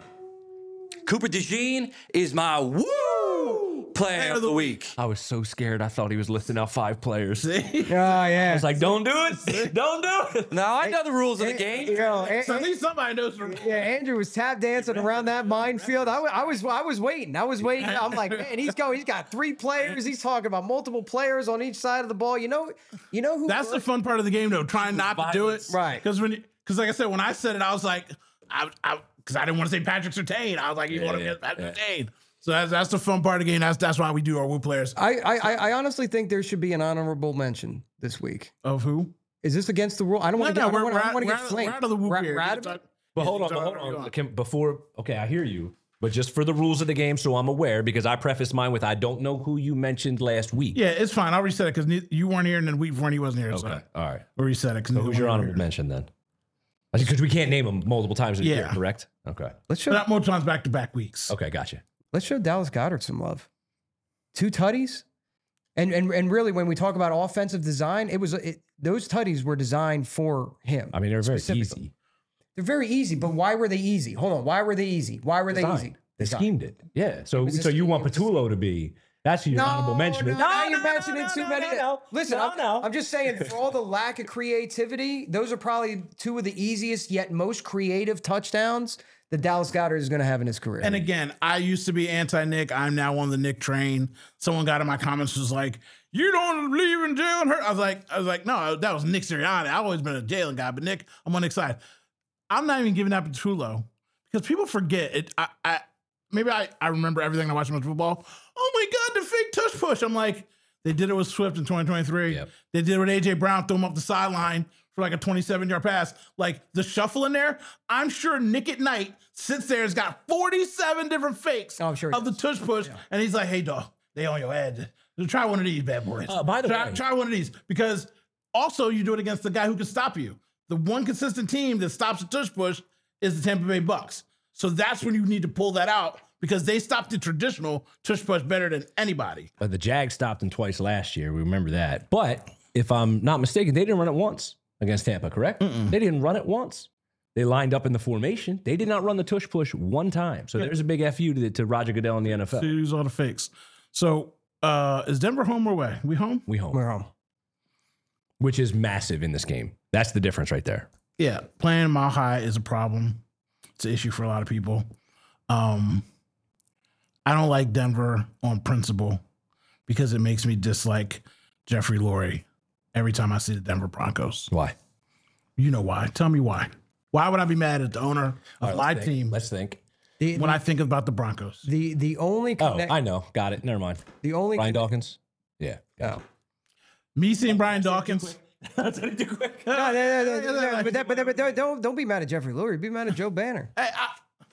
Cooper DeJean is my woo player of the week. I was so scared. I thought he was listing out five players. I Oh, yeah. was like, don't do it. Don't do it. Now I know the rules of the game. You know, An- So at least somebody knows. From- yeah, Andrew was tap dancing around that minefield. I, wa- I was, I was waiting. I was waiting. I'm like, man, he's going. He's got three players. He's talking about multiple players on each side of the ball. You know, you know who? That's the fun part of the game, though. Trying not to do it, Right. Because when, because like I said, when I said it, I was like, I, I, because I didn't want to say Patrick Surtain. I was like, you want to yeah, get Patrick Surtain. So that's that's the fun part of the game. That's that's why we do our woo players. I, I, I- I honestly think there should be an honorable mention this week. Of who? Is this against the rule? I don't want to No, get. no, I don't we're, wanna- I we're, don't want to we're, get out- flamed. we're out of the whoop Ra- here. ra- You can talk- But you hold can on, talk but hold whatever you on. want. Can, before, okay, I hear you. But just for the rules of the game, so I'm aware, because I prefaced mine with I don't know who you mentioned last week. Yeah, it's fine. I'll reset it because you weren't here and then week before he wasn't here. Okay. So All right. we'll reset it. So who's your honorable mention then? Because we can't name them multiple times in a year, Yeah. correct? Okay. Let's show. Not more times back to back weeks. Okay, gotcha. Let's show Dallas Goedert some love. Two tutties, and and and really, when we talk about offensive design, it was it, those tutties were designed for him. I mean, they're very Specifically. easy. They're very easy, but why were they easy? Hold on, why were they easy? Why were they Design. easy? They Design. schemed it. Yeah. So was a so you scheme. want It was a Patullo to be, that's who your honorable mention is. No, now you're mentioning no, too no, many. no, no. Listen, No, I'm, no. I'm just saying, for all the lack of creativity, those are probably two of the easiest yet most creative touchdowns that Dallas Goedert is going to have in his career. And again, I used to be anti-Nick. I'm now on the Nick train. Someone got in my comments was like, "You don't believe in Jalen Hurts." I was like, I was like, no, that was Nick Sirianni. I've always been a Jalen guy, but Nick, I'm on Nick's side. I'm not even giving that to Tulo because people forget it. I, I maybe I, I remember everything I watched about football. Oh my God, the fake tush push. I'm like, they did it with Swift in twenty twenty-three. Yep. They did it with A J Brown, threw him up the sideline for like a twenty-seven yard pass. Like the shuffle in there, I'm sure Nick at Night sits there, has got forty-seven different fakes Oh, I'm sure he of the tush push. Yeah. And he's like, hey, dog, they on your head. Try one of these bad boys. Uh, by the try, way, try one of these because also you do it against the guy who can stop you. The one consistent team that stops the tush push is the Tampa Bay Bucks. So that's when you need to pull that out because they stopped the traditional tush push better than anybody. But the Jags stopped him twice last year. We remember that. But if I'm not mistaken, they didn't run it once against Tampa, correct? Mm-mm. They didn't run it once. They lined up in the formation. They did not run the tush push one time. So yeah. there's a big F U to, to Roger Goodell in the N F L. So use all the fakes. So uh, is Denver home or away? We home? We home. We're home. Which is massive in this game. That's the difference right there. Yeah, playing Mile High is a problem. It's an issue for a lot of people. Um, I don't like Denver on principle because it makes me dislike Jeffrey Lurie every time I see the Denver Broncos. Why? You know why. Tell me why. Why would I be mad at the owner of right, my think. team? Let's think. The, when the, I think about the Broncos. The the only connect- Oh, I know. Got it. Never mind. The only Brian Dawkins? Yeah. Oh. Me seeing Brian Dawkins. That's what too quick. No, no, no, no, no, no, but, that, but, that, but don't, don't don't be mad at Jeffrey Lurie. Be mad at Joe Banner. Hey, I,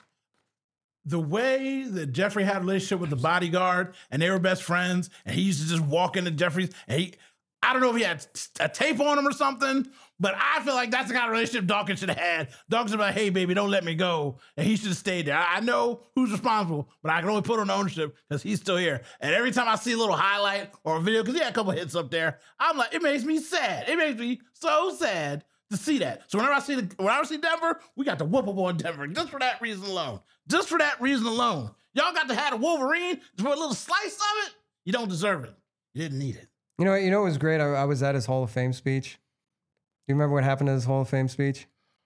the way that Jeffrey had a relationship with the bodyguard and they were best friends, and he used to just walk into Jeffrey's, and he, I don't know if he had a tape on him or something, but I feel like that's the kind of relationship Dawkins should have had. Dawkins was like, hey, baby, don't let me go. And he should have stayed there. I, I know who's responsible, but I can only put on ownership because he's still here. And every time I see a little highlight or a video, because he had a couple hits up there, I'm like, it makes me sad. It makes me so sad to see that. So whenever I see the, whenever I see Denver, we got to whoop up on Denver just for that reason alone. Just for that reason alone. Y'all got to have a Wolverine for a little slice of it. You don't deserve it. You didn't need it. You know, you know what was great? I, I was at his Hall of Fame speech. Do you remember what happened at his Hall of Fame speech?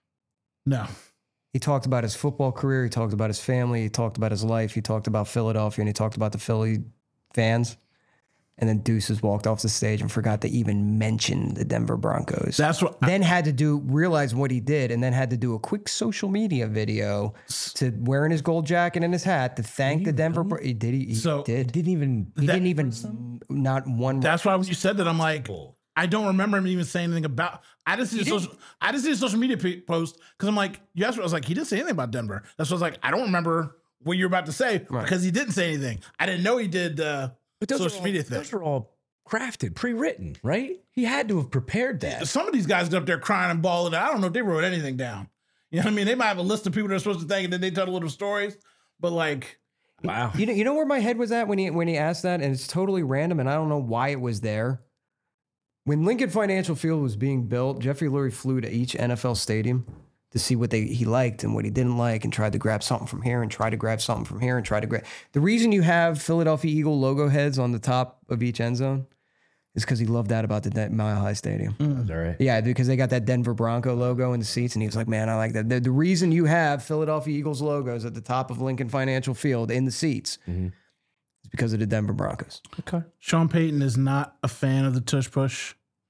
No. He talked about his football career. He talked about his family. He talked about his life. He talked about Philadelphia, and he talked about the Philly fans. And then Deuces walked off the stage and forgot to even mention the Denver Broncos. That's what. Then had to do realize what he did, and then had to do a quick social media video to wearing his gold jacket and his hat to thank the Denver. Bro- he did. He, he so did. Didn't even. He that, didn't even. Not one. That's why when you said that, I'm like, I don't remember him even saying anything about. I just see the social. I just see the social media p- post because I'm like, you asked me. I was like, he didn't say anything about Denver. That's what I was like. I don't remember what you're about to say right. because he didn't say anything. I didn't know he did uh, but those social all, media thing. Those are all crafted, pre-written, right? He had to have prepared that. Some of these guys get up there crying and bawling. I don't know if they wrote anything down. You know what I mean? They might have a list of people they're supposed to thank, and then they tell little stories. But like, wow. You know, you know where my head was at when he when he asked that, and it's totally random, and I don't know why it was there. When Lincoln Financial Field was being built, Jeffrey Lurie flew to each N F L stadium to see what they he liked and what he didn't like, and tried to grab something from here and try to grab something from here and try to grab. The reason you have Philadelphia Eagle logo heads on the top of each end zone is because he loved that about the De- Mile High Stadium. Mm. Is that right? Yeah, because they got that Denver Bronco logo in the seats, and he was like, man, I like that. The, the reason you have Philadelphia Eagles logos at the top of Lincoln Financial Field in the seats mm-hmm. is because of the Denver Broncos. Okay. Sean Payton is not a fan of the tush push.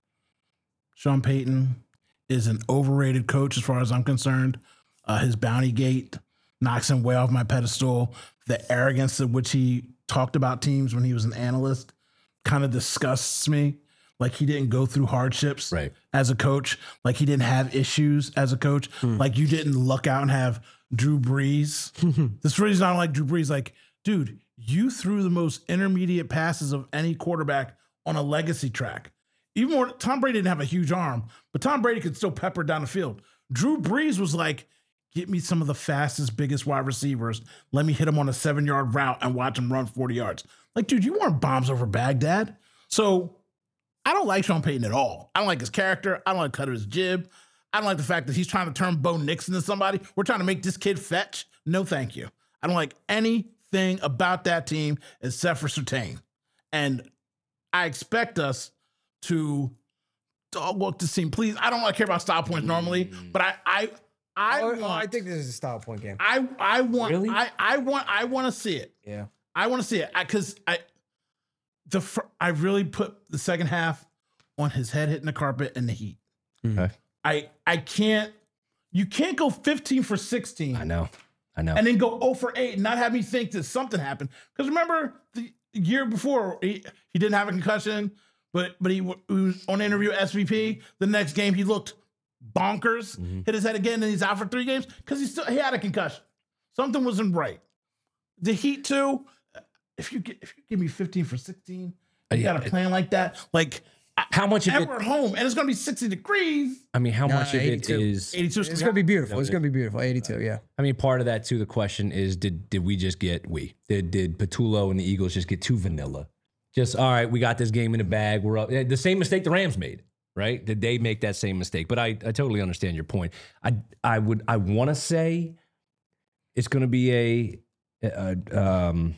Sean Payton is an overrated coach as far as I'm concerned. Uh, his bounty gate knocks him way off my pedestal. The arrogance of which he talked about teams when he was an analyst kind of disgusts me. Like he didn't go through hardships right. as a coach. Like he didn't have issues as a coach. Hmm. Like you didn't luck out and have Drew Brees. This reason I don't like Drew Brees. Like, dude, you threw the most intermediate passes of any quarterback on a legacy track. Even more, Tom Brady didn't have a huge arm, but Tom Brady could still pepper down the field. Drew Brees was like, get me some of the fastest, biggest wide receivers. Let me hit him on a seven-yard route and watch him run forty yards. Like, dude, you weren't bombs over Baghdad. So I don't like Sean Payton at all. I don't like his character. I don't like cut his jib. I don't like the fact that he's trying to turn Bo Nixon into somebody. We're trying to make this kid fetch. No, thank you. I don't like anything about that team except for Surtain. And I expect us to dog walk this team. Please, I don't want to care about style points normally, but I I I oh, want, oh, I think this is a style point game. I I want really? I I want I want to see it. Yeah. I want to see it because I, I the fr- I really put the second half on his head hitting the carpet and the heat. Okay. I I can't you can't go fifteen for sixteen. I know. I know. And then go zero for eight and not have me think that something happened. Because remember the year before he, he didn't have a concussion, but but he, he was on an interview at S V P. The next game he looked bonkers, Mm-hmm. hit his head again, and he's out for three games because he still he had a concussion. Something wasn't right. The Heat too. If you get, if you give me fifteen for sixteen, you yeah, got a plan like that. Like How much of and it? we're at home, and it's gonna be sixty degrees. I mean, how Nah, much of it eighty-two. is? eighty-two. It's gonna be beautiful. It's gonna be beautiful. eighty-two, yeah. I mean, part of that too. The question is, did did we just get we did did Patullo and the Eagles just get too vanilla? Just all right, we got this game in the bag. We're up. The same mistake the Rams made, right? Did they make that same mistake? But I, I totally understand your point. I I would I want to say it's going to be a, a um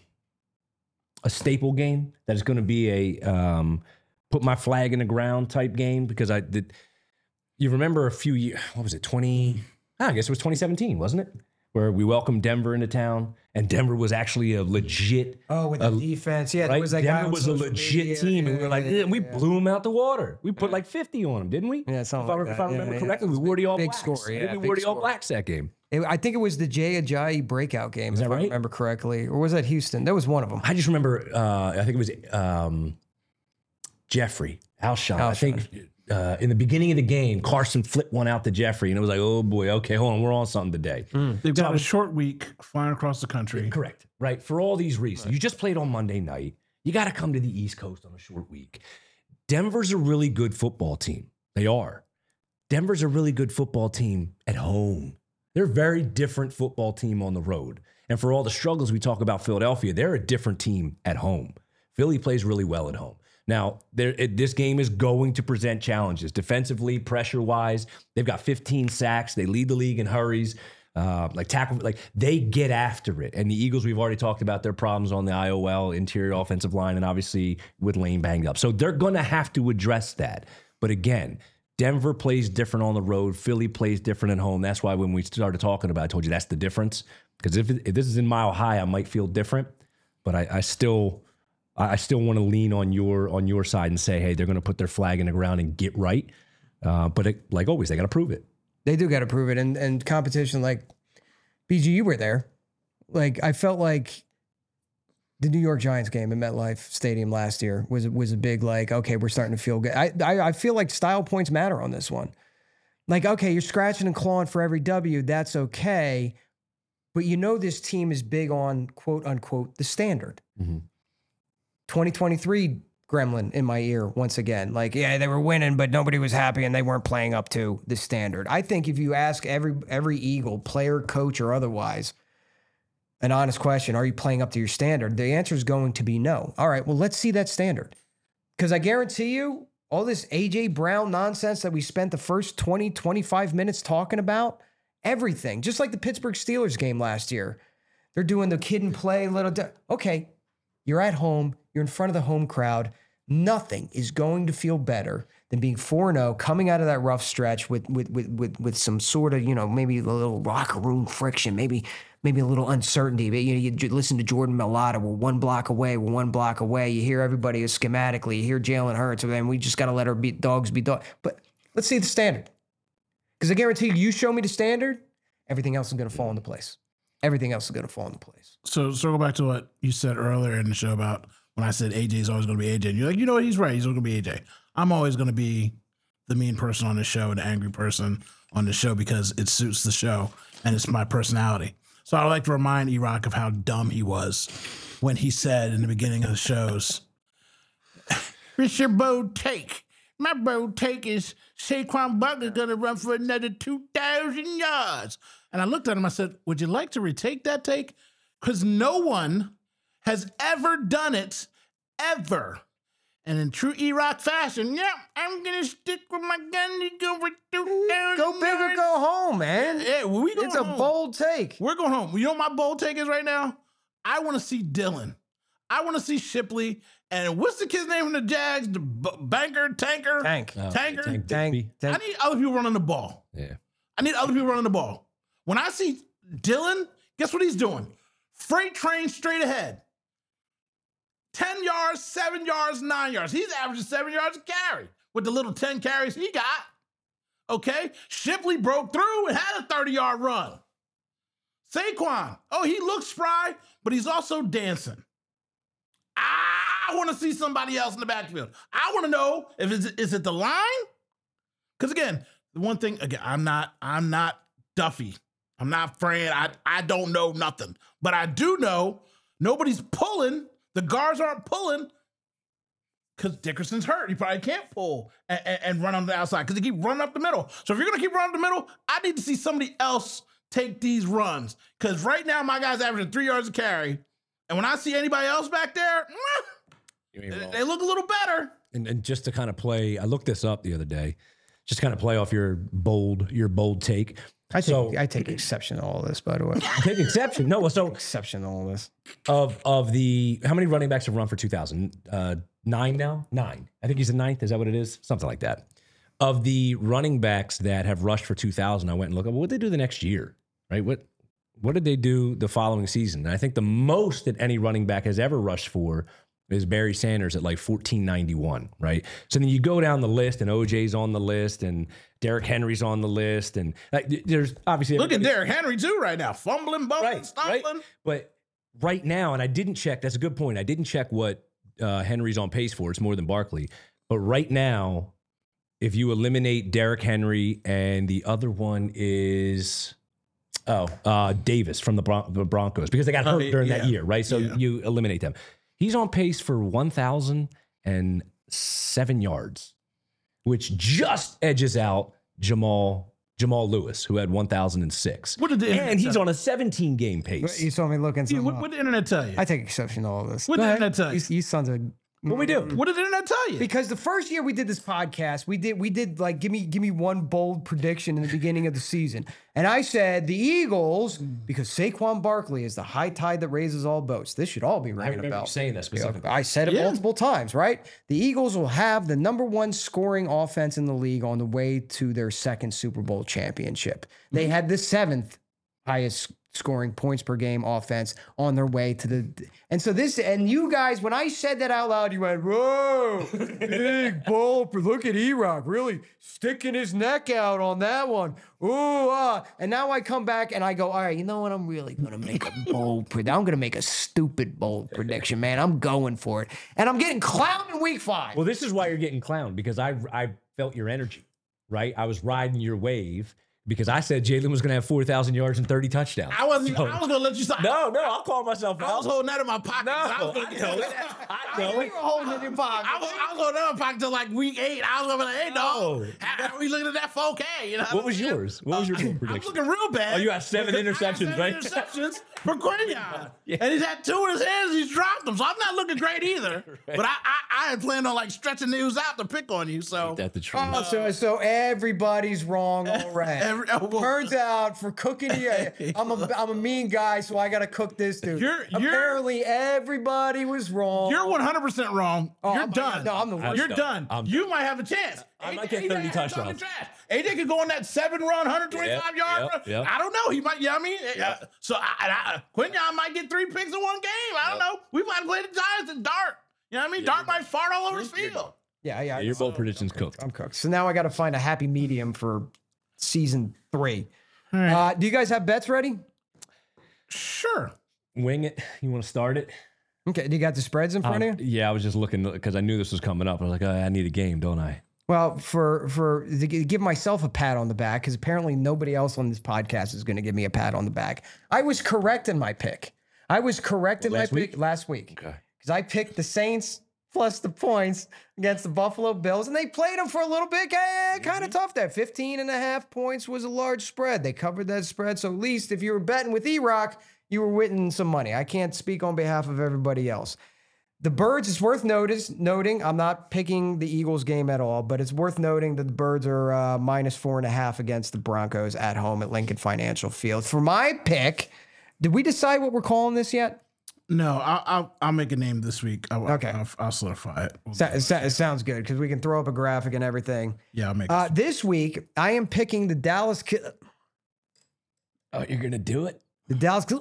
a staple game. That is going to be a um put my flag in the ground type game because I did. You remember a few years? What was it? Twenty? I guess it was twenty seventeen, wasn't it? Where we welcomed Denver into town, and Denver was actually a legit. Oh, with the a, defense, yeah. There Right? was that guy Denver on was a social legit media. team, and we were like, Yeah, yeah, we yeah. blew them out the water. We put like fifty on them, didn't we? Yeah, something if I, like if that. I remember Yeah, yeah. correctly, we wore the All Big Blacks. score, I think yeah, we big wore the All score. Blacks that game. It- I think it was the Jay Ajayi breakout game, Is if that I right? remember correctly. Or was that Houston? That was one of them. I just remember, uh, I think it was um, Jeffrey Alshon. I think uh, in the beginning of the game, Carson flipped one out to Jeffrey, and it was like, oh boy, okay, hold on, we're on something today. They've got a short week flying across the country. Correct. Right. For all these reasons. You just played on Monday night. You got to come to the East Coast on a short week. Denver's a really good football team. They are. Denver's a really good football team at home. They're a very different football team on the road. And for all the struggles we talk about Philadelphia, they're a different team at home. Philly plays really well at home. Now, it, this game is going to present challenges defensively, pressure-wise. They've got fifteen sacks. They lead the league in hurries. Uh, like tackle, like they get after it. And the Eagles, we've already talked about their problems on the I O L interior offensive line, and obviously with Lane banged up. So they're going to have to address that. But again, Denver plays different on the road. Philly plays different at home. That's why when we started talking about it, I told you that's the difference. Because if, if this is in Mile High, I might feel different. But I, I still, I still want to lean on your on your side and say, hey, they're going to put their flag in the ground and get right. Uh, but it, like always, they got to prove it. They do got to prove it. And and competition, like B G, you were there. Like I felt like the New York Giants game at MetLife Stadium last year was was a big like, okay, we're starting to feel good. I, I I feel like style points matter on this one. Like, okay, you're scratching and clawing for every W. That's okay. But you know this team is big on quote unquote the standard. Mm-hmm. twenty twenty-three gremlin in my ear once again. Like, yeah, they were winning, but nobody was happy and they weren't playing up to the standard. I think if you ask every every Eagle, player, coach, or otherwise, an honest question, are you playing up to your standard? The answer is going to be no. All right, well, let's see that standard. Because I guarantee you, all this A J Brown nonsense that we spent the first twenty, twenty-five minutes talking about, everything, just like the Pittsburgh Steelers game last year. They're doing the kid and play little. De- okay, you're at home. You're in front of the home crowd. Nothing is going to feel better than being four and oh, coming out of that rough stretch with with with with with some sort of, you know, maybe a little locker room friction, maybe maybe a little uncertainty. But you know, you j- listen to Jordan Mailata. We're one block away. We're one block away. You hear everybody schematically. You hear Jalen Hurts, and we just got to let our be- dogs be dogs. But let's see the standard, because I guarantee you, you show me the standard, everything else is going to fall into place. Everything else is going to fall into place. So circle back to what you said earlier in the show about when I said A J is always going to be A J. And you're like, you know what? He's right. He's always going to be A J. I'm always going to be the mean person on the show and the angry person on the show because it suits the show and it's my personality. So I would like to remind E-Rock of how dumb he was when he said in the beginning of the shows, it's your bold take. My bold take is Saquon Barkley's going to run for another two thousand yards. And I looked at him, I said, would you like to retake that take? Because no one has ever done it, ever. And in true E-Rock fashion, yeah, I'm going to stick with my gun to go for two thousand Go big or go home, man. Yeah, well, we going It's a home. bold take. We're going home. You know what my bold take is right now? I want to see Dylan. I want to see Shipley. And what's the kid's name from the Jags? The b- banker, tanker? Tank. Oh, Tanker? Tank Tank. Digby. I Tank. need other people running the ball. Yeah. I need other people running the ball. When I see Dylan, guess what he's doing? Freight train straight ahead. ten yards, seven yards, nine yards. He's averaging seven yards a carry with the little ten carries he got. Okay? Shipley broke through and had a thirty-yard run. Saquon, oh, he looks spry, but he's also dancing. I want to see somebody else in the backfield. I want to know if it's, is it the line? Because again, the one thing again, I'm not, I'm not Duffy. I'm not Fran. I, I don't know nothing, but I do know nobody's pulling. The guards aren't pulling because Dickerson's hurt. He probably can't pull and, and, and run on the outside because they keep running up the middle. So if you're gonna keep running up the middle, I need to see somebody else take these runs because right now my guy's averaging three yards a carry, and when I see anybody else back there, they, they look a little better. And, and just to kind of play, I looked this up the other day, just kind of play off your bold, your bold take. I take So- I take exception to all this, by the way. Take exception. No, so Exception to all this. of of the how many running backs have run for two thousand? Uh, nine now. Nine. I think he's the ninth. Is that what it is? Something like that. Of the running backs that have rushed for two thousand, I went and looked up. Well, what did they do the next year? Right. What What did they do the following season? And I think the most that any running back has ever rushed for is Barry Sanders at like fourteen ninety-one, right? So then you go down the list, and O J's on the list, and Derrick Henry's on the list, and like, there's obviously Look at Derrick Henry too right now, fumbling, bumbling, right, stumbling. right. But right now, and I didn't check. That's a good point. I didn't check what uh, Henry's on pace for. It's more than Barkley. But right now, if you eliminate Derrick Henry, and the other one is oh uh, Davis from the, Bron- the Broncos, because they got hurt Oh, during yeah. that year, right? So Yeah. you eliminate them. He's on pace for one thousand seven yards, which just edges out Jamal Jamal Lewis, who had one thousand six. What did the internet And he's tell on a seventeen game You pace. saw me looking you? something What, up. what did the internet tell you? I take exception to all this. What Go did the ahead. internet tell you? You, you sons of What we do? What did the internet tell you? Because the first year we did this podcast, we did we did like give me give me one bold prediction in the beginning of the season, and I said the Eagles because Saquon Barkley is the high tide that raises all boats. This should all be I ringing a remember bell. you saying that specifically. I said it Yeah. multiple times, right? The Eagles will have the number one scoring offense in the league on the way to their second Super Bowl championship. They had the seventh highest scoring points per game offense on their way to the and so this and you guys, when I said that out loud, you went, whoa, big bold. Look at E-Rock really sticking his neck out on that one. Ooh, ah. And now I come back and I go, all right, you know what? I'm really gonna make a bold prediction. I'm gonna make a stupid bold prediction, man. I'm going for it. And I'm getting clowned in week five. Well, this is why you're getting clowned, because I I felt your energy, right? I was riding your wave because I said Jalen was going to have four thousand yards and thirty touchdowns. I wasn't. So- I was gonna let you. Stop. no, no, I'll call myself I was out. holding that in my pocket. No, I was gonna I get know you. it. I know it. You were holding it in your pocket. I was, I was holding that in my pocket till like week eight. I was gonna be like, hey, dog, No. how are we looking at that four K? You know What was yours? What was your bold I'm prediction? looking real bad. Oh, you got seven because I interceptions, seven right? Interceptions for Quinion. Yeah. And he's had two in his hands. He's dropped them, so I'm not looking great either. But I, I, I had planned on like stretching news out to pick on you. So That's the truth. Oh, so so everybody's wrong already. Every- oh, well- Turns out for cooking, yeah, I'm a I'm a mean guy, so I got to cook this dude. You're- you're- Apparently, everybody was wrong. you're one hundred percent wrong. Oh, you're I'm- done. no, I'm the worst. You're I'm done. done. I'm you might have a chance. I might A get J thirty had it on the touchdowns. trash. A J could go on that seven run, one hundred twenty-five Yep, yard yep, run. yep. I don't know. He might, you know what I mean? Uh, so I, I, Quinion might get three picks in one game. I don't know. We might play the Giants in dark. You know what I mean? Dart might fart all over his field. yeah, yeah. Yeah, your bold prediction's cooked. I'm cooked. So now I got to find a happy medium for season three. Uh, do you guys have bets ready? Sure. Wing it. You want to start it? Okay. Do you got the spreads in front Um, of you? yeah, I was just looking because I knew this was coming up. I was like, oh, I need a game, don't I? Well, for for to gi- give myself a pat on the back, because apparently nobody else on this podcast is going to give me a pat on the back. I was correct in my pick. I was correct in Last my week? pick last week. Okay. Because I picked the Saints plus the points against the Buffalo Bills, and they played them for a little bit. Eh, kind of tough there. fifteen and a half points was a large spread. They covered that spread. So at least if you were betting with E-Rock, you were winning some money. I can't speak on behalf of everybody else. The Birds, it's worth notice, noting, I'm not picking the Eagles game at all, but it's worth noting that the Birds are uh, minus four and a half against the Broncos at home at Lincoln Financial Field. For my pick, did we decide what we're calling this yet? No, I'll, I'll, I'll make a name this week. I'll, Okay. I'll, I'll solidify it. We'll So, do it, it. so- it sounds good because we can throw up a graphic and everything. Yeah, I'll make Uh, it. this week, I am picking the Dallas, Ki- Oh, you're gonna do it? the Dallas, Ki-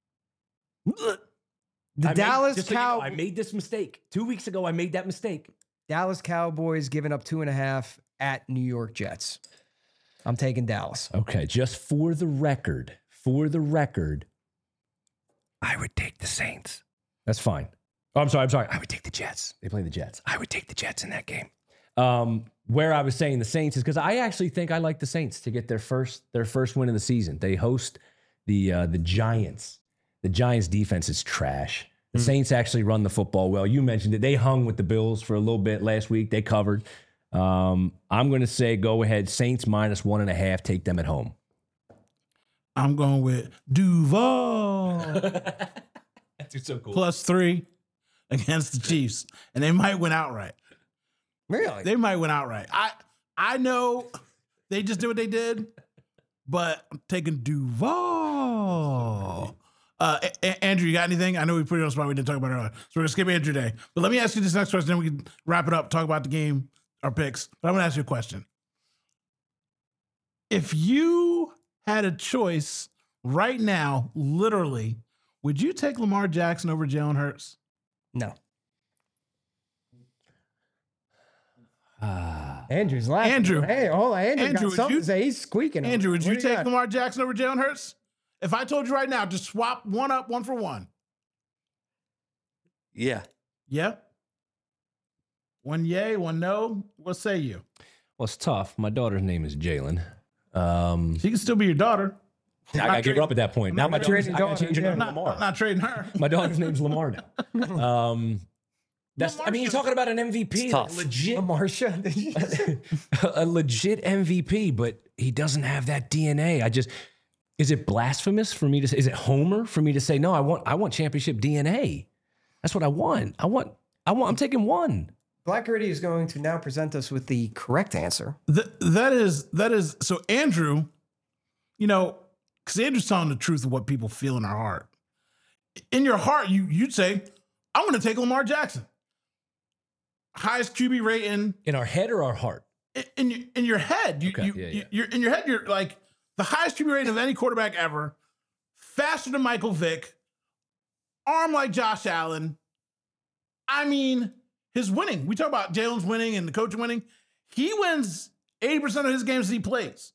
the I made- Dallas just so you know, Cow, I made this mistake two weeks ago. I made that mistake. Dallas Cowboys giving up two and a half at New York Jets. I'm taking Dallas. Okay, just for the record, for the record, I would take the Saints. That's fine. Oh, I'm sorry. I'm sorry. I would take the Jets. They play the Jets. I would take the Jets in that game. Um, where I was saying the Saints is because I actually think I like the Saints to get their first their first win of the season. They host the uh, the Giants. The Giants defense is trash. The mm. Saints actually run the football well. You mentioned it. They hung with the Bills for a little bit last week. They covered. Um, I'm going to say go ahead. Saints minus one and a half. Take them at home. I'm going with Duval. That's so cool. Plus three against the Chiefs. And they might win outright. Really? They might win outright. I I know they just did what they did, but I'm taking Duval. Uh, a- a- Andrew, you got anything? I know we put you on the spot. We didn't talk about it earlier. So we're going to skip Andrew Day. But let me ask you this next question, then we can wrap it up, talk about the game, our picks. But I'm going to ask you a question. If you had a choice right now, literally, would you take Lamar Jackson over Jalen Hurts? No. Ah. Andrew's laughing. Andrew. Hey, hold on. Andrew, Andrew, got would something you- to say. He's squeaking. over Andrew, would there. you What do take got? Lamar Jackson over Jalen Hurts? If I told you right now, just swap one up, one for one. Yeah. Yeah? One yay, one no. What say you? Well, it's tough. My daughter's name is Jalen. Um, She can still be your daughter. I gotta give her up at that point. Now my not daughter's, trading I gotta daughter, change her yeah. name to Not, Lamar. not trading her. My daughter's name's Lamar now. Um, that's. I mean, you're talking about an M V P, It's tough. legit, Marsha. Did you just say- a legit M V P, but he doesn't have that D N A. I just. Is it blasphemous for me to say? Is it Homer for me to say no? I want. I want championship D N A. That's what I want. I want. I want. I'm taking one. Black Gritty is going to now present us with the correct answer. Th- that is, that is, so Andrew, you know, because Andrew's telling the truth of what people feel in their heart. In your heart, you, you'd say, I'm going to take Lamar Jackson. Highest Q B rating. In our head or our heart? In, in, your, in your head, you, Okay, you, yeah, you, yeah. you're in your head, you're like the highest Q B rating of any quarterback ever, faster than Michael Vick, arm like Josh Allen. I mean, his winning. We talk about Jalen's winning and the coach winning. He wins eighty percent of his games that he plays.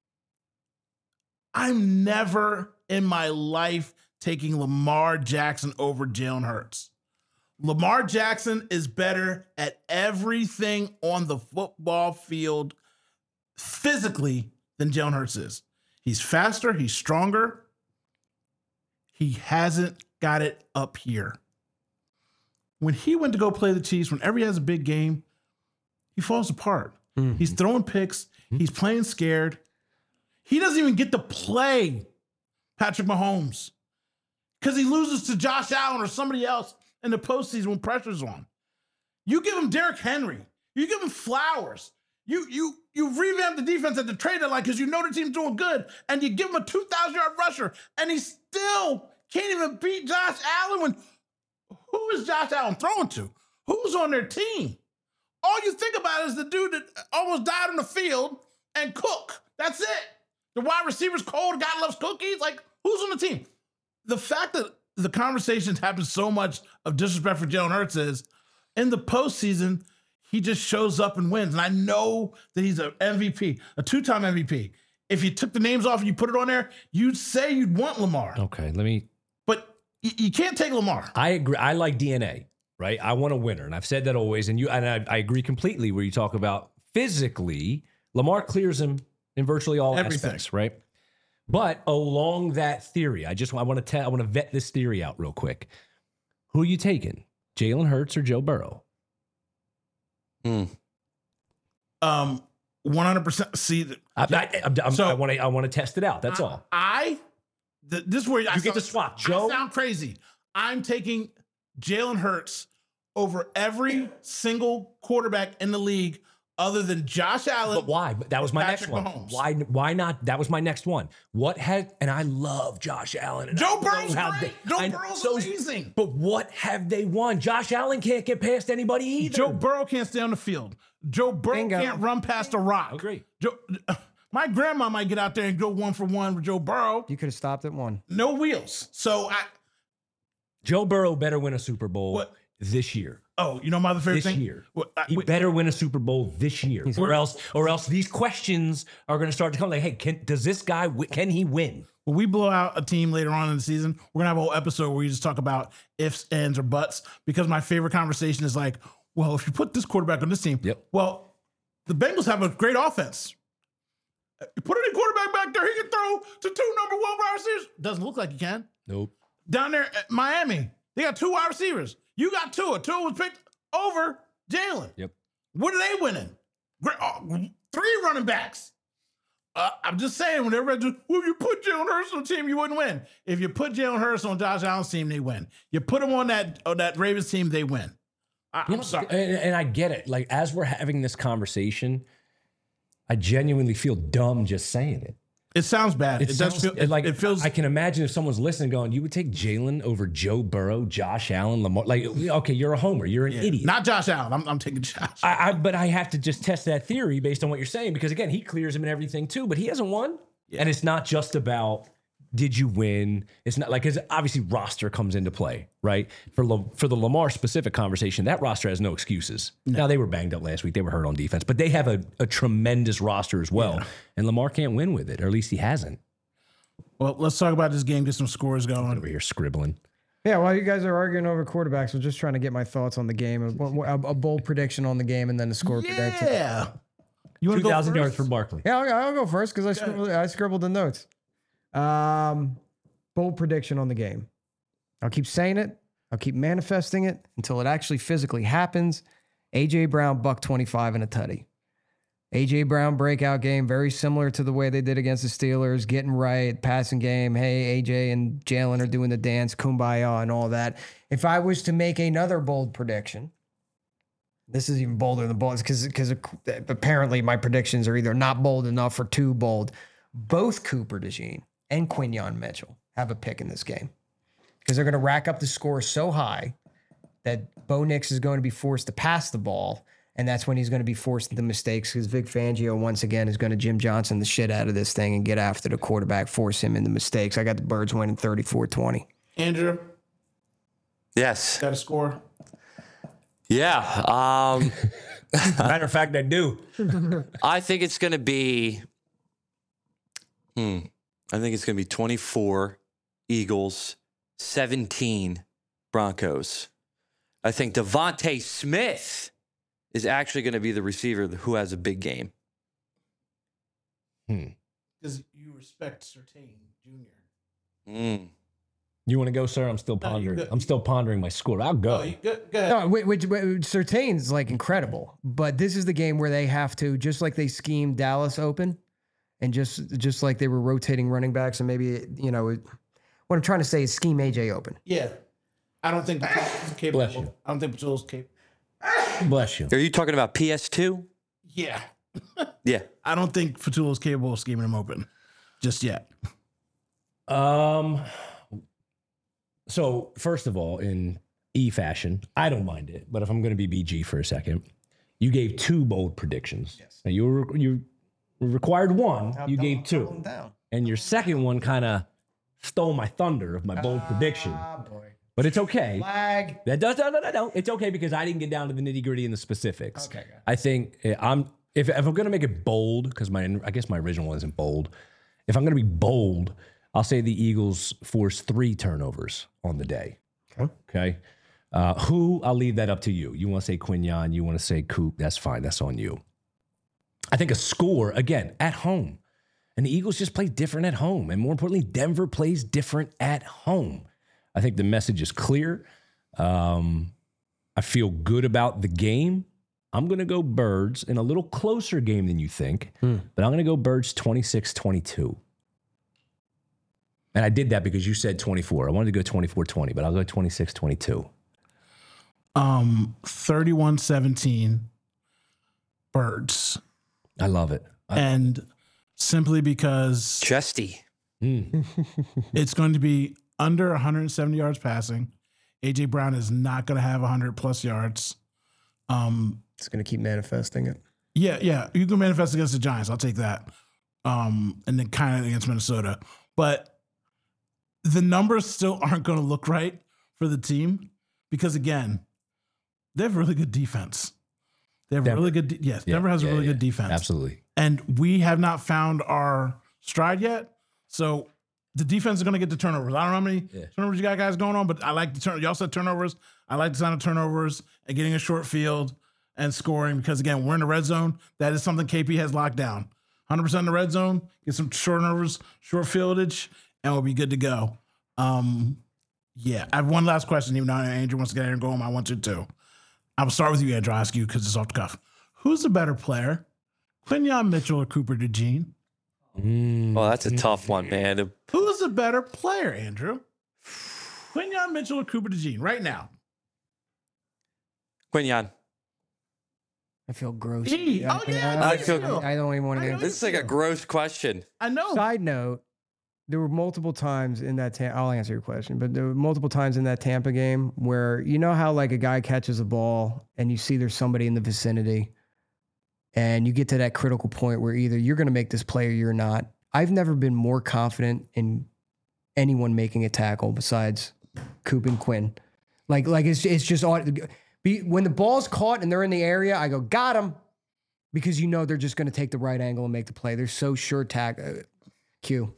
I'm never in my life taking Lamar Jackson over Jalen Hurts. Lamar Jackson is better at everything on the football field physically than Jalen Hurts is. He's faster, he's stronger. He hasn't got it up here. When he went to go play the Chiefs, whenever he has a big game, he falls apart. Mm-hmm. He's throwing picks. He's playing scared. He doesn't even get to play Patrick Mahomes because he loses to Josh Allen or somebody else in the postseason when pressure's on. You give him Derrick Henry. You give him Flowers. You you you revamp the defense at the trade deadline because you know the team's doing good, and you give him a two thousand yard rusher, and he still can't even beat Josh Allen. When who is Josh Allen throwing to? Who's on their team? All you think about is the dude that almost died on the field and Cook. That's it. The wide receiver's cold. God loves cookies. Like, who's on the team? The fact that the conversations happen so much of disrespect for Jalen Hurts is in the postseason, he just shows up and wins. And I know that he's an M V P, a two-time M V P. If you took the names off and you put it on there, you'd say you'd want Lamar. Okay, let me. But y- you can't take Lamar. I agree. I like D N A, right? I want a winner, and I've said that always. And you and I, I agree completely. Where you talk about physically, Lamar clears him in virtually all Everything. aspects, right? But along that theory, I just I want to tell I want to vet this theory out real quick. Who are you taking, Jalen Hurts or Joe Burrow? Hmm. Um, one hundred percent. See, th- I, I, I'm- I'm- So- I want to I want to test it out. That's all. I, th- this is where I You get sound- to swap, I Joe. sound crazy. I'm taking Jalen Hurts over every single quarterback in the league other than Josh Allen. But why? But that was my Patrick next one. Mahomes. Why? Why not? That was my next one. What has? And I love Josh Allen. And Joe I know Burrow's how great. they- Joe I know- Burrow's so- amazing. But what have they won? Josh Allen can't get past anybody either. Joe Burrow can't stay on the field. Joe Burrow Bingo. can't run past a rock. Agree. Joe, my grandma might get out there and go one for one with Joe Burrow. You could have stopped at one. No wheels. So I. Joe Burrow better win a Super Bowl What? this year. Oh, you know my other favorite This thing. year. What, I- He wait, better win a Super Bowl this year, or else, or else these questions are going to start to come. Like, hey, can, does this guy? wi- Can he win? when we blow out a team later on in the season, we're gonna have a whole episode where we just talk about ifs, ands, or buts. Because my favorite conversation is like, well, if you put this quarterback on this team, Yep. well, the Bengals have a great offense. You put any quarterback back there, he can throw to two number one wide receivers. Doesn't look like he can. Nope. Down there at Miami, they got two wide receivers. You got Tua. Tua was picked over Jalen. Yep. What are they winning? Great, oh, three running backs. Uh, I'm just saying, when everybody just, well, you put Jalen Hurts on the team, you wouldn't win. If you put Jalen Hurts on Josh Allen's team, they win. You put him on that on that Ravens team, they win. I, I'm You know, sorry. and, and I get it. Like, as we're having this conversation, I genuinely feel dumb just saying it. It sounds bad. It, It, does sounds feel it, like it feels. I can imagine if someone's listening, going, "You would take Jalen over Joe Burrow, Josh Allen, Lamar." Like, okay, you're a homer. You're an yeah, idiot. not Josh Allen. I'm, I'm taking Josh. I, I, but I have to just test that theory based on what you're saying because again, he clears him and everything too, but he hasn't won. Yeah. And it's not just about did you win. It's not like because obviously roster comes into play, right? For La, for the Lamar specific conversation, that roster has no excuses. No. Now they were banged up last week; they were hurt on defense, but they have a, a tremendous roster as well. Yeah. And Lamar can't win with it, or at least he hasn't. Well, let's talk about this game. Get some scores going. Over here scribbling. Yeah, while you guys are arguing over quarterbacks, I'm just trying to get my thoughts on the game. A, a, a bold prediction on the game and then a score prediction. Yeah. You want Two to go thousand first? yards for Barkley. Yeah, I'll, I'll go first because I, scribbled, I scribbled the notes. Um, bold prediction on the game. I'll keep saying it. I'll keep manifesting it until it actually physically happens. A J Brown, buck twenty-five and a tutty. A J Brown breakout game, very similar to the way they did against the Steelers, getting right, passing game. Hey, A J and Jalen are doing the dance, kumbaya and all that. If I was to make another bold prediction, this is even bolder than bold because because apparently my predictions are either not bold enough or too bold. Both Cooper DeJean and Quinyon Mitchell have a pick in this game because they're going to rack up the score so high that Bo Nix is going to be forced to pass the ball. And that's when he's going to be forced into mistakes because Vic Fangio, once again, is going to Jim Johnson the shit out of this thing and get after the quarterback, force him into mistakes. I got the Birds winning thirty-four twenty. Andrew, Yes. got a score? Yeah. Um, Matter of fact, I do. I think it's going to be, hmm, I think it's going to be twenty-four Eagles, seventeen Broncos. I think Devontae Smith is actually going to be the receiver who has a big game. Hmm. Because you respect Surtain Junior Mm. You want to go, sir? I'm still No, you pondering. go- I'm still pondering my score. I'll go. Oh, you, go, go ahead. No, which, which, which Surtain's like incredible, but this is the game where they have to, just like they schemed Dallas open, and just just like they were rotating running backs, and maybe you know what I'm trying to say is scheme A J open. Yeah. I don't think Patullo's capable. Bless you. I don't think Patullo's capable. Bless you. Are you talking about P S two? Yeah. Yeah. I don't think Patullo's capable of scheming him open just yet. Um. So first of all, in E fashion, I don't mind it. But if I'm going to be B G for a second, you gave two bold predictions. Yes. Now you were you required one. You gave two, and your second one kind of stole my thunder of my bold prediction. Ah, boy. But it's okay. Flag. That does no no no no. It's okay because I didn't get down to the nitty gritty and the specifics. Okay, good. I think uh, I'm if if I'm gonna make it bold because my I guess my original one isn't bold. If I'm gonna be bold, I'll say the Eagles force three turnovers on the day. Okay. Okay. Uh, who I'll leave that up to you. You want to say Quinyon, you want to say Coop. That's fine. That's on you. I think a score again at home, and the Eagles just play different at home, and more importantly, Denver plays different at home. I think the message is clear. Um, I feel good about the game. I'm going to go Birds in a little closer game than you think, Hmm. but I'm going to go Birds twenty-six twenty-two. And I did that because you said twenty-four. I wanted to go twenty-four twenty, but I'll go twenty-six twenty-two. Um, thirty-one seventeen Birds. I love it. I, And simply because Chesty. mm, it's going to be under one hundred seventy yards passing. A J Brown is not going to have one hundred plus yards. Um, It's going to keep manifesting it. yeah, yeah. You can manifest against the Giants. I'll take that. Um, and then kind of against Minnesota. But the numbers still aren't going to look right for the team because, again, they have really good defense. They have Denver. really good. De- yes, Yeah, Denver has yeah, a really yeah. good defense. Absolutely. And we have not found our stride yet. So the defense is going to get the turnovers. I don't know how many Yeah. turnovers you got guys going on, but I like the turn. Y'all said turnovers. I like the sound of turnovers and getting a short field and scoring because, again, we're in the red zone. That is something K P has locked down. one hundred percent in the red zone, get some short turnovers, short fieldage, and we'll be good to go. Um, yeah, I have one last question, even though Andrew wants to get in and go home. I want you to. I'll start with you, Andrew. I'll ask you because it's off the cuff. Who's the better player, Quinyon Mitchell or Cooper DeJean? Mm. Well, that's a tough one, man. Who's the better player, Andrew? Quinyon Mitchell or Cooper DeJean right now? Quinyon. I feel gross. E. Oh, yeah, I I, feel- feel. I don't even want I to know get. This is like a gross question. I know. Side note, there were multiple times in that Tam- I'll answer your question, but there were multiple times in that Tampa game where you know how like a guy catches a ball and you see there's somebody in the vicinity and you get to that critical point where either you're going to make this play or you're not. I've never been more confident in anyone making a tackle besides Coop and Quinn. Like, like it's it's just all, be, when the ball's caught and they're in the area, I go, got him, because you know they're just going to take the right angle and make the play. They're so sure tack. Uh, Q.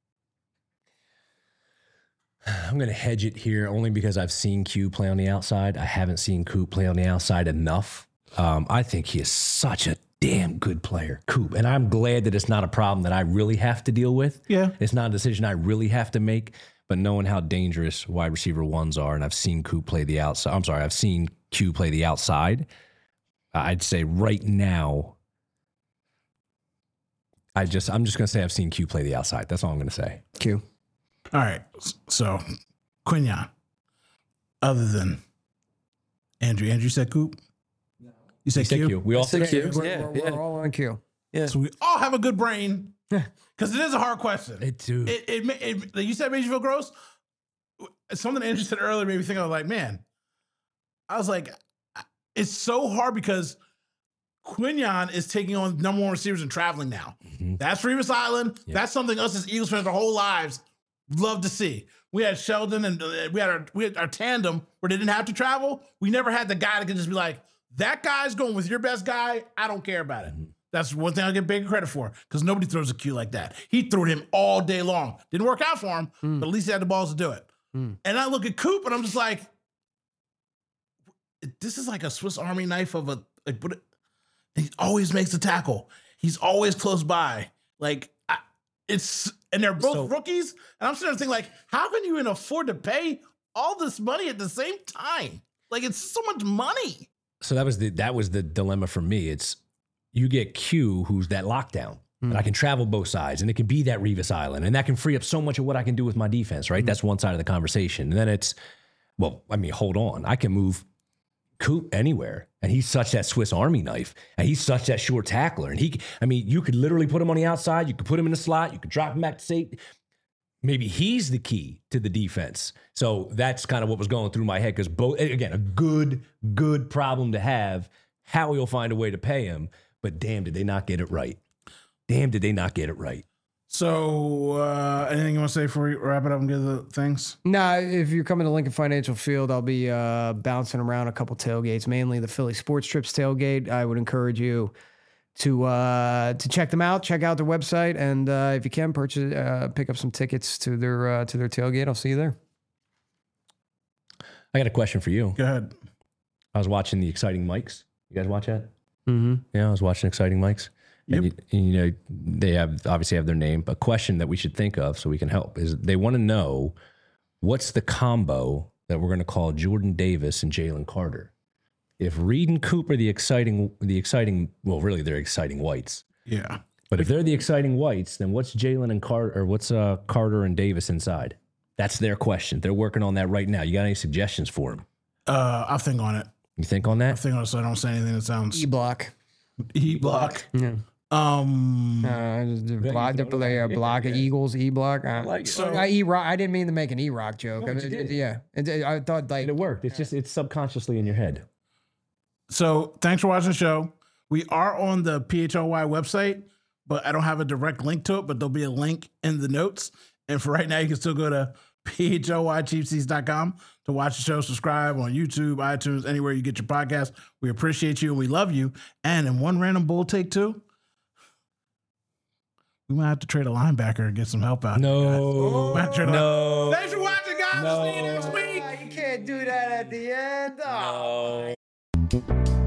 I'm going to hedge it here only because I've seen Q play on the outside. I haven't seen Coop play on the outside enough. Um, I think he is such a damn good player, Coop. And I'm glad that it's not a problem that I really have to deal with. Yeah. It's not a decision I really have to make, but knowing how dangerous wide receiver ones are, and I've seen Coop play the outside. I'm sorry, I've seen Q play the outside. I'd say right now, I just, I'm just going to say I've seen Q play the outside. That's all I'm going to say. Q. All right. So, Quinyon, other than Andrew, Andrew said Coop? No. You said, You said Q? Q. We all said said Q. We're, Yeah, we're, yeah. we're all on Q. Yeah. So we all have a good brain because it is a hard question. It too. It, it, it, it, like you said, it made you feel gross. Something Andrew said earlier made me think, I was like, man, I was like, it's so hard because Quinyon is taking on number one receivers and traveling now. Mhm. That's Revis Island. Yeah. That's something us as Eagles fans our whole lives love to see. We had Sheldon and uh, we had our we had our tandem where they didn't have to travel. We never had the guy that could just be like, that guy's going with your best guy. I don't care about it. Mm-hmm. That's one thing I get big credit for because nobody throws a Q like that. He threw it him all day long. Didn't work out for him, Mm. but at least he had the balls to do it. Mm. And I look at Coop and I'm just like, this is like a Swiss Army knife of a like. What? He always makes a tackle. He's always close by. Like I, it's, and they're both So- rookies. And I'm sitting there thinking, like, how can you even afford to pay all this money at the same time? Like, it's so much money. So that was the that was the dilemma for me. It's you get Q, who's that lockdown, Mm. and I can travel both sides, and it can be that Revis Island, and that can free up so much of what I can do with my defense. Right, that's one side of the conversation. And then it's, well, I mean, hold on, I can move Coop anywhere, and he's such that Swiss Army knife, and he's such that short tackler, and he, I mean, you could literally put him on the outside, you could put him in the slot, you could drop him back to safety. Maybe he's the key to the defense. So that's kind of what was going through my head because both, again, a good, good problem to have. How he'll find a way to pay him, but damn, did they not get it right? Damn, did they not get it right? So, uh, anything you want to say before we wrap it up and get the things? Nah, if you're coming to Lincoln Financial Field, I'll be uh, bouncing around a couple tailgates, mainly the Philly Sports Trips tailgate. I would encourage you to uh, to check them out, check out their website, and uh, if you can, purchase, uh, pick up some tickets to their uh, to their tailgate. I'll see you there. I got a question for you. Go ahead. I was watching the Exciting Mics. You guys watch that? Mm-hmm. Yeah, I was watching Exciting Mics. And, Yep. you, and, you know, they have obviously have their name. A question that we should think of so we can help is they want to know what's the combo that we're going to call Jordan Davis and Jalen Carter. If Reed and Cooper, the exciting, the exciting, well, really they're exciting whites. Yeah. But if they're the exciting whites, then what's Jalen and Carter, or what's uh, Carter and Davis inside? That's their question. They're working on that right now. You got any suggestions for them? Uh, I'll think on it. You think on I'll that? think on it so I don't say anything that sounds E block. E block. Yeah. Um, Uh, just the block, the play, uh, block of Eagles, E block. Uh, like it. So- I E rock. I didn't mean to make an E rock joke. No, I but mean, you did. Yeah, It- it- I thought like And it worked. It's just, it's subconsciously in your head. So thanks for watching the show. We are on the P H L Y website, but I don't have a direct link to it, but there'll be a link in the notes. And for right now, you can still go to P H L Y cheap seats dot com to watch the show, subscribe on YouTube, iTunes, anywhere you get your podcast. We appreciate you and we love you. And in one random bull take two, we might have to trade a linebacker and get some help out. No. Might have to trade a- No. Thanks for watching, guys. See you next week. you can't do that at the end. No. Oh.